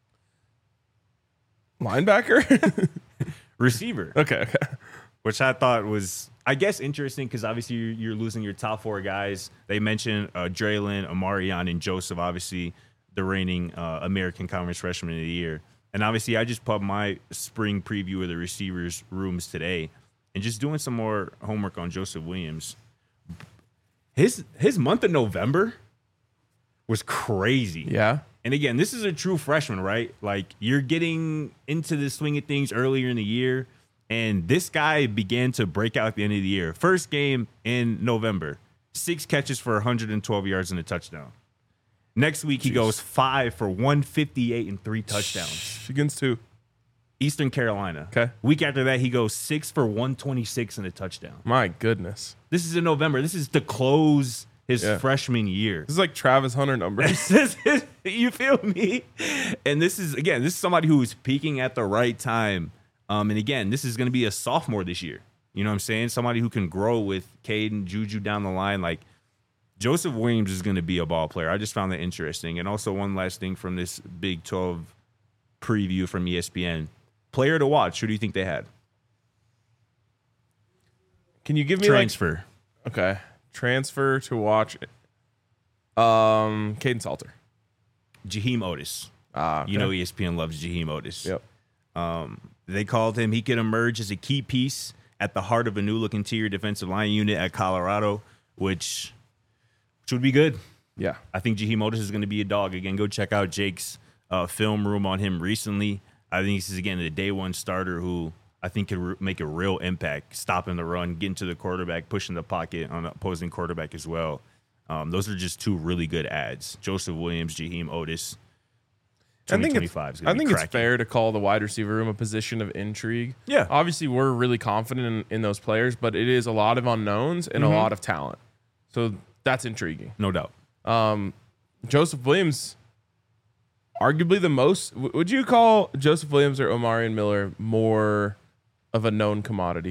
Linebacker?
Receiver.
Okay.
Which I thought was, I guess, interesting because obviously you're losing your top 4 guys. They mentioned Draylon, Amarion, and Joseph, obviously the reigning American Conference Freshman of the Year. And obviously I just put up my spring preview of the receivers rooms today and just doing some more homework on Joseph Williams. His month of November was crazy.
Yeah.
And again, this is a true freshman, right? Like, you're getting into the swing of things earlier in the year, and this guy began to break out at the end of the year. First game in November, 6 catches for 112 yards and a touchdown. Next week, he goes 5 for 158 and 3 touchdowns.
Against 2.
Eastern Carolina.
Okay.
Week after that, he goes 6 for 126 and a touchdown.
My goodness.
This is in November. This is to close his freshman year.
This is like Travis Hunter numbers.
You feel me? And this is somebody who is peaking at the right time. And again, this is going to be a sophomore this year. You know what I'm saying? Somebody who can grow with Caden, Juju down the line. Like, Joseph Williams is going to be a ball player. I just found that interesting. And also one last thing from this Big 12 preview from ESPN. Player to watch. Who do you think they had?
Can you give me
Transfer.
Okay. Transfer to watch. Caden Salter.
Jaheim Otis.
Okay.
You know ESPN loves Jaheim Otis.
Yep.
They called him. He could emerge as a key piece at the heart of a new-look interior defensive line unit at Colorado, which would be good.
Yeah.
I think Jaheim Otis is going to be a dog. Again, go check out Jake's film room on him recently. I think this is, again, the day one starter who I think could make a real impact, stopping the run, getting to the quarterback, pushing the pocket on the opposing quarterback as well. Those are just 2 really good ads. Joseph Williams, Jaheim Otis.
I think
2025 is going to be
it's
cracking.
fair to call the wide receiver room a position of intrigue.
Yeah.
Obviously, we're really confident in those players, but it is a lot of unknowns and a lot of talent. So that's intriguing.
No doubt.
Joseph Williams, arguably the most. Would you call Joseph Williams or Omarion Miller more of a known commodity?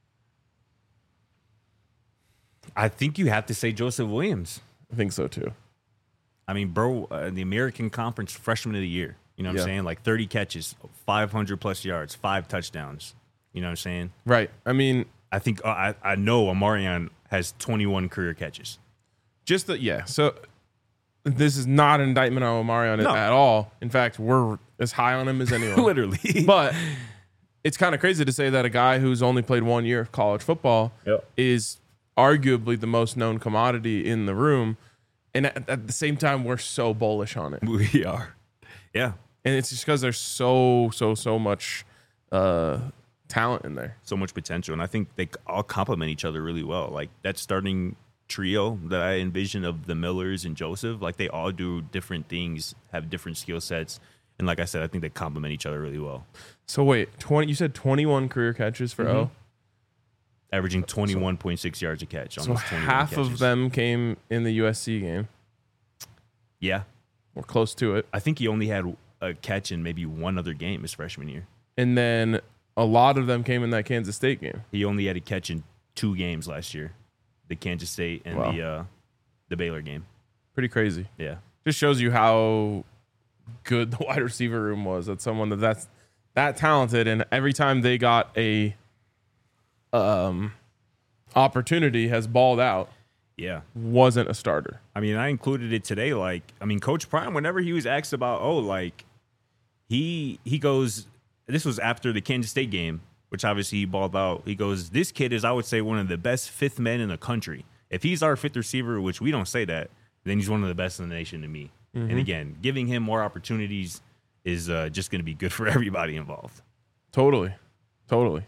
I think you have to say Joseph Williams.
I think so too.
I mean, bro, the American Conference Freshman of the Year. You know what
Yeah.
I'm saying? Like 30 catches, 500 plus yards, 5 touchdowns. You know what I'm saying?
Right. I mean,
I think I know Omarion has 21 career catches.
just that. Yeah. So this is not an indictment on Omarion
No.
at all. In fact, we're as high on him as anyone.
Literally.
But it's kind of crazy to say that a guy who's only played 1 year of college football
Yep.
is arguably the most known commodity in the room. And at the same time, we're so bullish on it.
We are. Yeah.
And it's just because there's so much talent in there.
So much potential. And I think they all complement each other really well. Like that starting trio that I envision of the Millers and Joseph, like they all do different things, have different skill sets. And like I said, I think they complement each other really well.
So wait, you said 21 career catches for O?
Averaging 21.6 yards a catch.
So
Almost 21
half
catches.
of them came in the USC game.
Yeah.
Or close to it.
I think he only had a catch in maybe one other game his freshman year.
And then a lot of them came in that Kansas State game.
He only had a catch in 2 games last year. The Kansas State and
Wow.
the Baylor game.
Pretty crazy.
Yeah.
Just shows you how good the wide receiver room was. That's someone that's that talented, and every time they got a opportunity has balled out.
Yeah.
Wasn't a starter.
I mean, I included it today. Like, I mean, Coach Prime, whenever he was asked about, he goes, this was after the Kansas State game, which obviously he balled out. He goes, this kid is, I would say, one of the best fifth men in the country. If he's our fifth receiver, which we don't say that, then he's one of the best in the nation to me. And again, giving him more opportunities is just going to be good for everybody involved.
Totally. All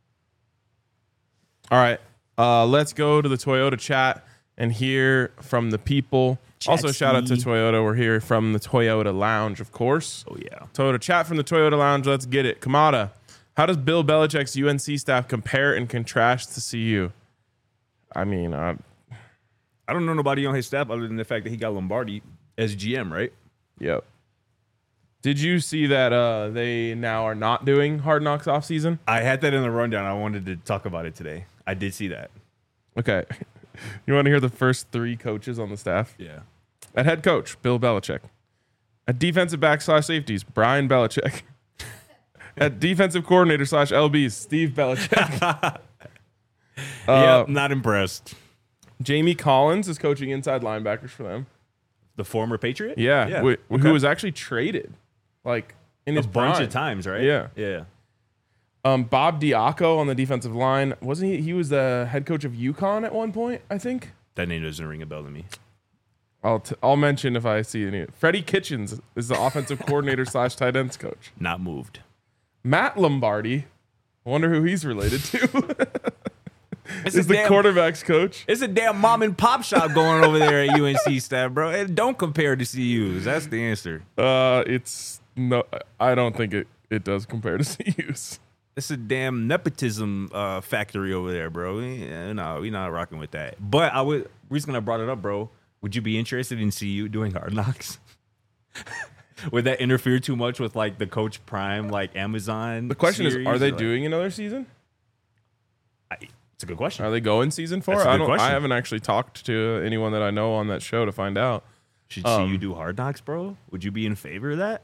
right. Let's go to the Toyota chat and hear from the people. Also, shout out to Toyota. We're here from the Toyota Lounge, of course.
Oh, yeah.
Toyota chat from the Toyota Lounge. Let's get it. Kamada, how does Bill Belichick's UNC staff compare and contrast to CU? I mean,
I don't know nobody on his staff other than the fact that he got Lombardi as GM, right?
yep. Did you see that they now are not doing Hard Knocks off season?
I had that in the rundown. I wanted to talk about it today. I did see that.
Okay. You want to hear the first 3 coaches on the staff?
Yeah.
At head coach, Bill Belichick. At defensive back / safeties, Brian Belichick. At defensive coordinator / LBs, Steve Belichick.
Yep, not impressed.
Jamie Collins is coaching inside linebackers for them.
The former Patriot?
Yeah.
Okay.
Who was actually traded like in his
a bunch
prime.
of times, right?
Yeah.
Yeah.
Bob Diaco on the defensive line. Wasn't he? He was the head coach of UConn at one point, I think.
That name doesn't ring a bell to me.
I'll mention if I see any. Freddie Kitchens is the offensive coordinator / tight ends coach.
Not moved.
Matt Lombardi. I wonder who he's related to.
It's
is the quarterback's coach.
It's a damn mom and pop shop going over there at UNC staff, bro. And don't compare to CU's. That's the answer.
It's no. I don't think it does compare to CU's.
It's a damn nepotism factory over there, bro. No, we're not rocking with that. But reason I brought it up, bro. Would you be interested in CU doing Hard Knocks? Would that interfere too much with like the Coach Prime, like Amazon?
The question is,
series,
are they
or, like-
doing another season?
It's a good question.
Are they going season 4?
That's a good
I
question.
haven't actually talked to anyone that I know on that show to find out.
Should CU do Hard Knocks, bro? Would you be in favor of that?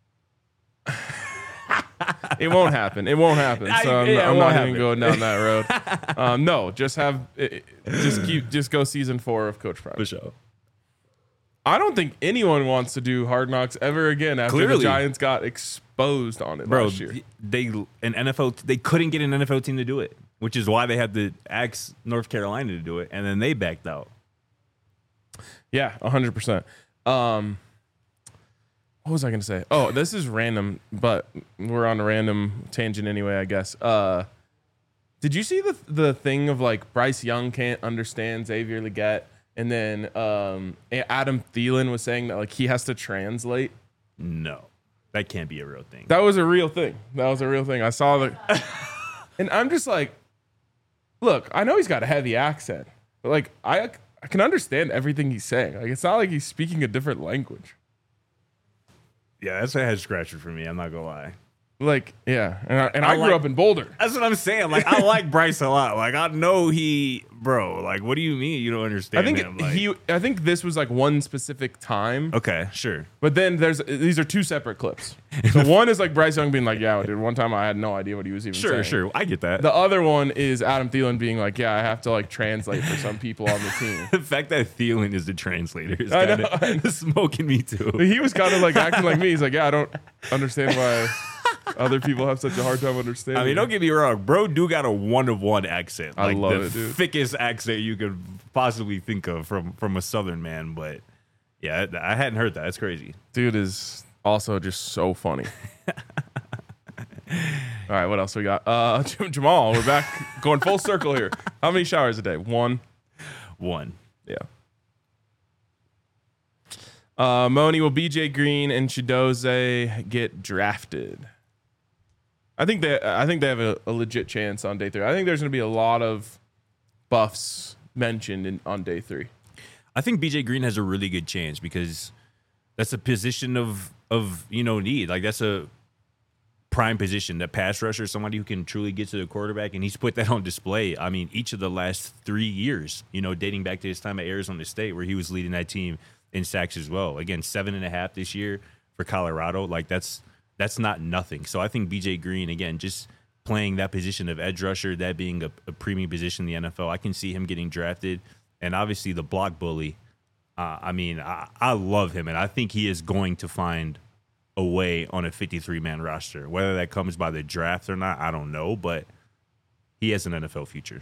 It won't happen. It won't happen. So I'm
it
not
won't
even
happen.
going down that road. No, just go season 4 of Coach Prime.
For sure.
I don't think anyone wants to do Hard Knocks ever again after the
Clearly.
Giants got exposed on it
Bro,
last year.
they couldn't get an NFL team to do it, which is why they had to ask North Carolina to do it, and then they backed out.
Yeah, 100%. What was I going to say? Oh, this is random, but we're on a random tangent anyway, I guess. Did you see the thing of like Bryce Young can't understand Xavier Legette, and then Adam Thielen was saying that like he has to translate?
No, that can't be a real thing.
That was a real thing. I saw the, and I'm just like, look, I know he's got a heavy accent, but like I can understand everything he's saying. Like it's not like he's speaking a different language.
Yeah, that's a head scratcher for me. I'm not gonna lie.
Like, yeah. And I grew
like-
up in Boulder.
That's what I'm saying. Like, I like Bryce a lot. Like, I know bro. Like, what do you mean you don't understand?
I think
him? Like,
I think this was like one specific time.
okay, sure.
But then these are two separate clips. So one is like Bryce Young being like, yeah, dude, one time I had no idea what he was even saying.
Sure. I get that.
The other one is Adam Thielen being like, yeah, I have to like translate for some people on the team.
The fact that Thielen is the translator is
I
kind
know.
of smoking me too.
He was kind of like acting like me. He's like, yeah, I don't understand why other people have such a hard time understanding.
I mean, don't get me wrong, bro. Do got a one-of-one accent.
I
Like
love
the
it, dude.
thickest accent you could possibly think of from a Southern man. But yeah, I hadn't heard that. That's crazy.
Dude is also just so funny. All right, what else we got? Jamal, we're back going full circle here. How many showers a day? One. Yeah. Moni, will BJ Green and Chidoze get drafted? I think they have a legit chance on day 3. I think there's going to be a lot of buffs mentioned on day 3.
I think BJ Green has a really good chance because that's a position of need. Like that's a prime position, that pass rusher, somebody who can truly get to the quarterback, and he's put that on display. I mean, each of the last 3 years, dating back to his time at Arizona State, where he was leading that team in sacks as well. Again, 7.5 this year for Colorado. Like that's not nothing. So I think BJ Green, again, just playing that position of edge rusher, that being a premium position in the NFL, I can see him getting drafted. And obviously the block bully, I love him, and I think he is going to find a way on a 53-man roster. Whether that comes by the draft or not, I don't know, but he has an NFL future.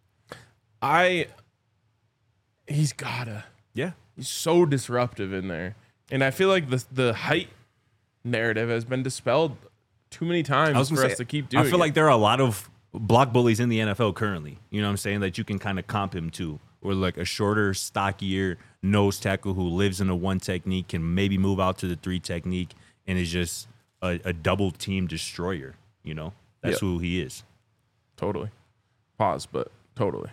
He's gotta.
Yeah.
He's so disruptive in there. And I feel like the height narrative has been dispelled too many times for us to keep doing
I feel like there are a lot of block bullies in the NFL currently. You know what I'm saying? That you can kind of comp him to. Or like a shorter, stockier nose tackle who lives in a 1 technique, can maybe move out to the 3 technique, and is just a double team destroyer. That's who he is.
Totally. Pause, but totally.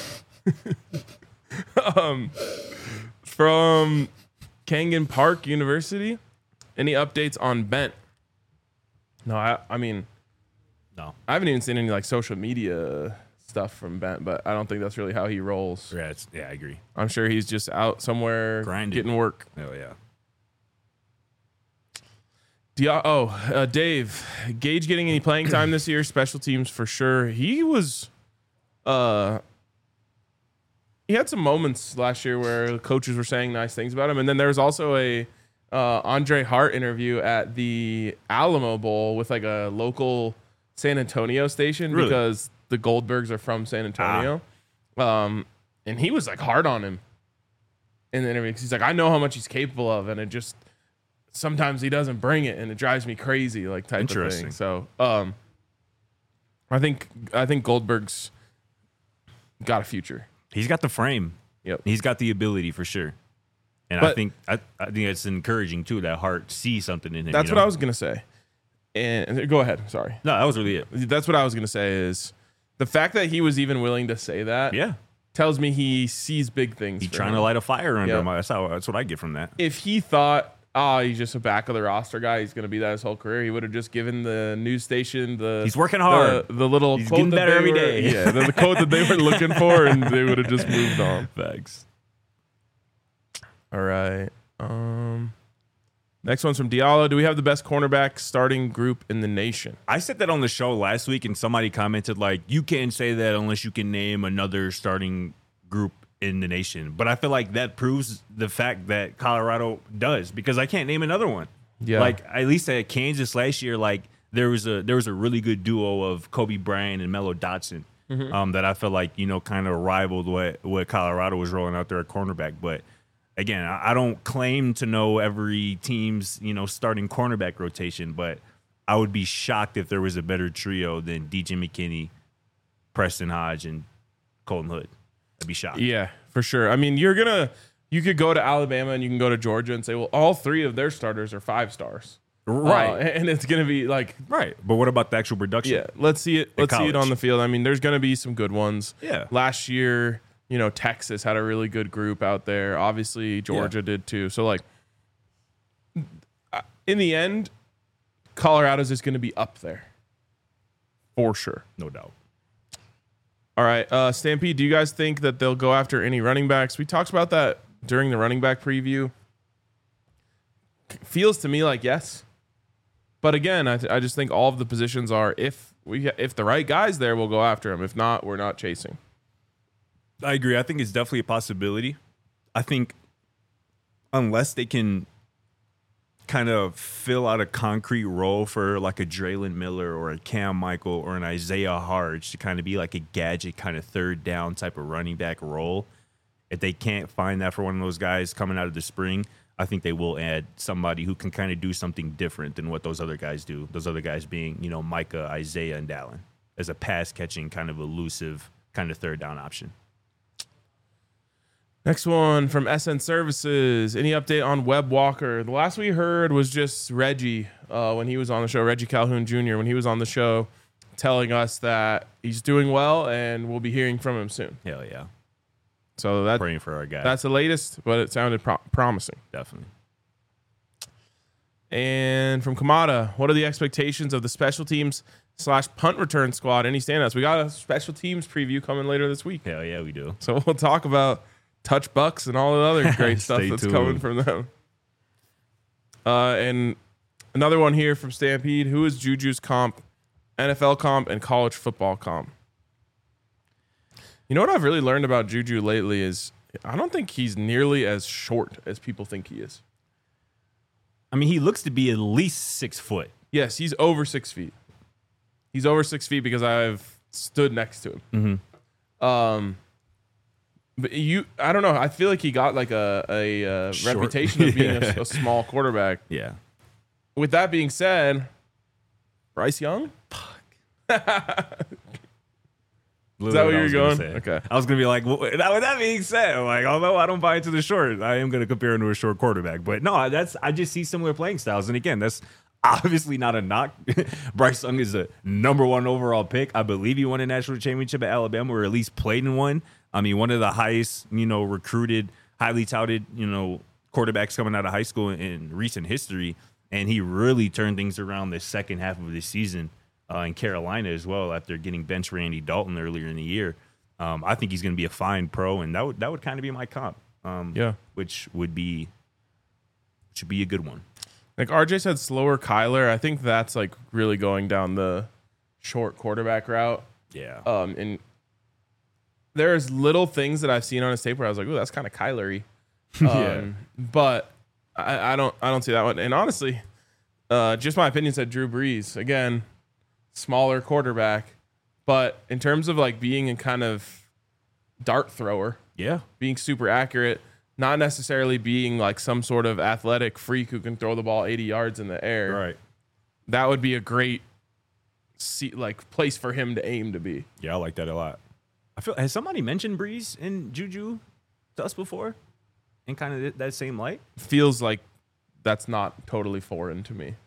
From Kangan Park University, any updates on Bent? No, I mean,
No.
I haven't even seen any like social media stuff from Bent, but I don't think that's really how he rolls.
Yeah, I agree.
I'm sure he's just out somewhere
Grinding.
getting work.
Oh, yeah.
Dave, Gage getting any playing time this year? Special teams for sure. He was, he had some moments last year where the coaches were saying nice things about him, and then there was also a Andre Hart interview at the Alamo Bowl with like a local San Antonio station because the Goldbergs are from San Antonio, and he was like hard on him in the interview. 'Cause he's like, I know how much he's capable of, and it just sometimes he doesn't bring it, and it drives me crazy, like type of thing. So, I think Goldberg's got a future.
He's got the frame.
Yep.
He's got the ability for sure. And
But-
I think it's encouraging too that Hart sees something in him.
That's what I was gonna say. And go ahead. Sorry.
No, that was really it.
That's what I was gonna say. Is the fact that he was even willing to say that
Yeah.
tells me he sees big things.
He's
for
trying
him.
to light a fire under
Yeah.
him. That's what I get from that.
If he thought, he's just a back of the roster guy, he's gonna be that his whole career, he would have just given the news station
He's working hard.
the little
He's
quote
getting
that
better
they
every
were-
day.
Yeah, the quote that they were looking for, and they would have just moved on.
Facts.
All right. Next one's from Diallo. Do we have the best cornerback starting group in the nation?
I said that on the show last week, and somebody commented like, "You can't say that unless you can name another starting group in the nation." But I feel like that proves the fact that Colorado does, because I can't name another one.
Yeah.
Like at least at Kansas last year, like there was a really good duo of Kobe Bryant and Melo Dotson that I feel like kind of rivaled what Colorado was rolling out there at cornerback, but. Again, I don't claim to know every team's, starting cornerback rotation, but I would be shocked if there was a better trio than DJ McKinney, Preston Hodge, and Colton Hood. I'd be shocked.
Yeah, for sure. I mean, you could go to Alabama and you can go to Georgia and say, well, all 3 of their starters are 5 stars.
Right.
And it's going to be like,
Right. But what about the actual production?
yeah, let's see it. Let's see it
college.
on the field. I mean, there's going to be some good ones.
Yeah.
Last year, Texas had a really good group out there. Obviously, Georgia did too. So, like, in the end, Colorado's is going to be up there for sure.
No doubt.
All right, Stampede, do you guys think that they'll go after any running backs? We talked about that during the running back preview. Feels to me like yes. But again, I just think all of the positions are if the right guy's there, we'll go after him. If not, we're not chasing.
I agree. I think it's definitely a possibility. I think unless they can kind of fill out a concrete role for like a Draylon Miller or a Cam Michael or an Isaiah Harge to kind of be like a gadget kind of third down type of running back role, if they can't find that for one of those guys coming out of the spring, I think they will add somebody who can kind of do something different than what those other guys do. Those other guys being, Micah, Isaiah, and Dallin as a pass catching kind of elusive kind of third down option.
Next one from SN Services. Any update on Webb Walker? The last we heard was just Reggie when he was on the show, Reggie Calhoun Jr., when he was on the show, telling us that he's doing well and we'll be hearing from him soon.
Hell yeah.
So
praying for our guy.
That's the latest, but it sounded promising.
Definitely.
And from Kamada, what are the expectations of the special teams / punt return squad? Any standouts? We got a special teams preview coming later this week.
Hell yeah, we do.
So we'll talk about touch bucks and all the other great stuff that's
tuned.
coming from them. And another one here from Stampede. Who is Juju's comp, NFL comp, and college football comp? You know what I've really learned about Juju lately is I don't think he's nearly as short as people think he is.
I mean, he looks to be at least 6 foot.
Yes, he's over 6 feet. He's over 6 feet because I've stood next to him.
Mm-hmm.
But I don't know. I feel like he got like a reputation of being a small quarterback.
Yeah.
With that being said, Bryce Young? Is that what you were going? Okay.
I was going to be like, well, with that being said, like, although I don't buy into the short, I am going to compare him to a short quarterback. But no, I just see similar playing styles. And again, that's obviously not a knock. Bryce Young is a #1 overall pick. I believe he won a national championship at Alabama, or at least played in one. I mean, one of the highest, recruited, highly touted, quarterbacks coming out of high school in recent history. And he really turned things around the second half of the season in Carolina as well after getting benched Randy Dalton earlier in the year. I think he's going to be a fine pro, and that would kind of be my comp. Which should be a good one.
Like RJ said, slower Kyler. I think that's like really going down the short quarterback route.
Yeah.
And there's little things that I've seen on his tape where I was like, "Ooh, that's kind of Kyler-y." But I don't see that one. And honestly, just my opinion said Drew Brees again, smaller quarterback, but in terms of like being a kind of dart thrower, being super accurate, not necessarily being like some sort of athletic freak who can throw the ball 80 yards in the air.
Right.
That would be a great place for him to aim to be.
Yeah, I like that a lot. Has somebody mentioned Breeze and Juju to us before in kind of that same light?
Feels like that's not totally foreign to me.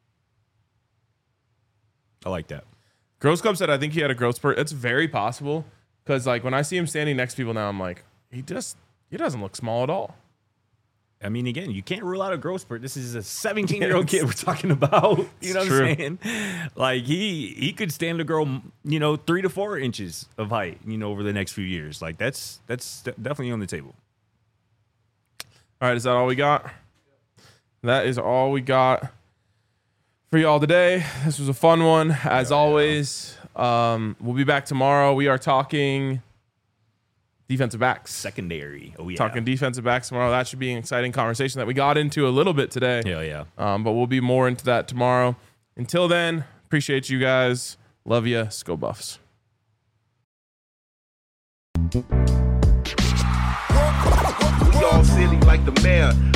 I like that.
Gross Club said, I think he had a growth spurt. It's very possible because like when I see him standing next to people now, I'm like, he doesn't look small at all.
I mean, again, you can't rule out a growth spurt. This is a 17-year-old kid we're talking about. You know what I'm saying? Like he could stand to grow, 3 to 4 inches of height, over the next few years. Like that's definitely on the table.
All right, is that all we got? That is all we got for y'all today. This was a fun one, as always. We'll be back tomorrow. We are talking defensive backs.
Secondary. Oh, yeah.
Talking defensive backs tomorrow. That should be an exciting conversation that we got into a little bit today.
Hell yeah.
But we'll be more into that tomorrow. Until then, appreciate you guys. Love ya. Go Buffs.
We all silly like the mayor.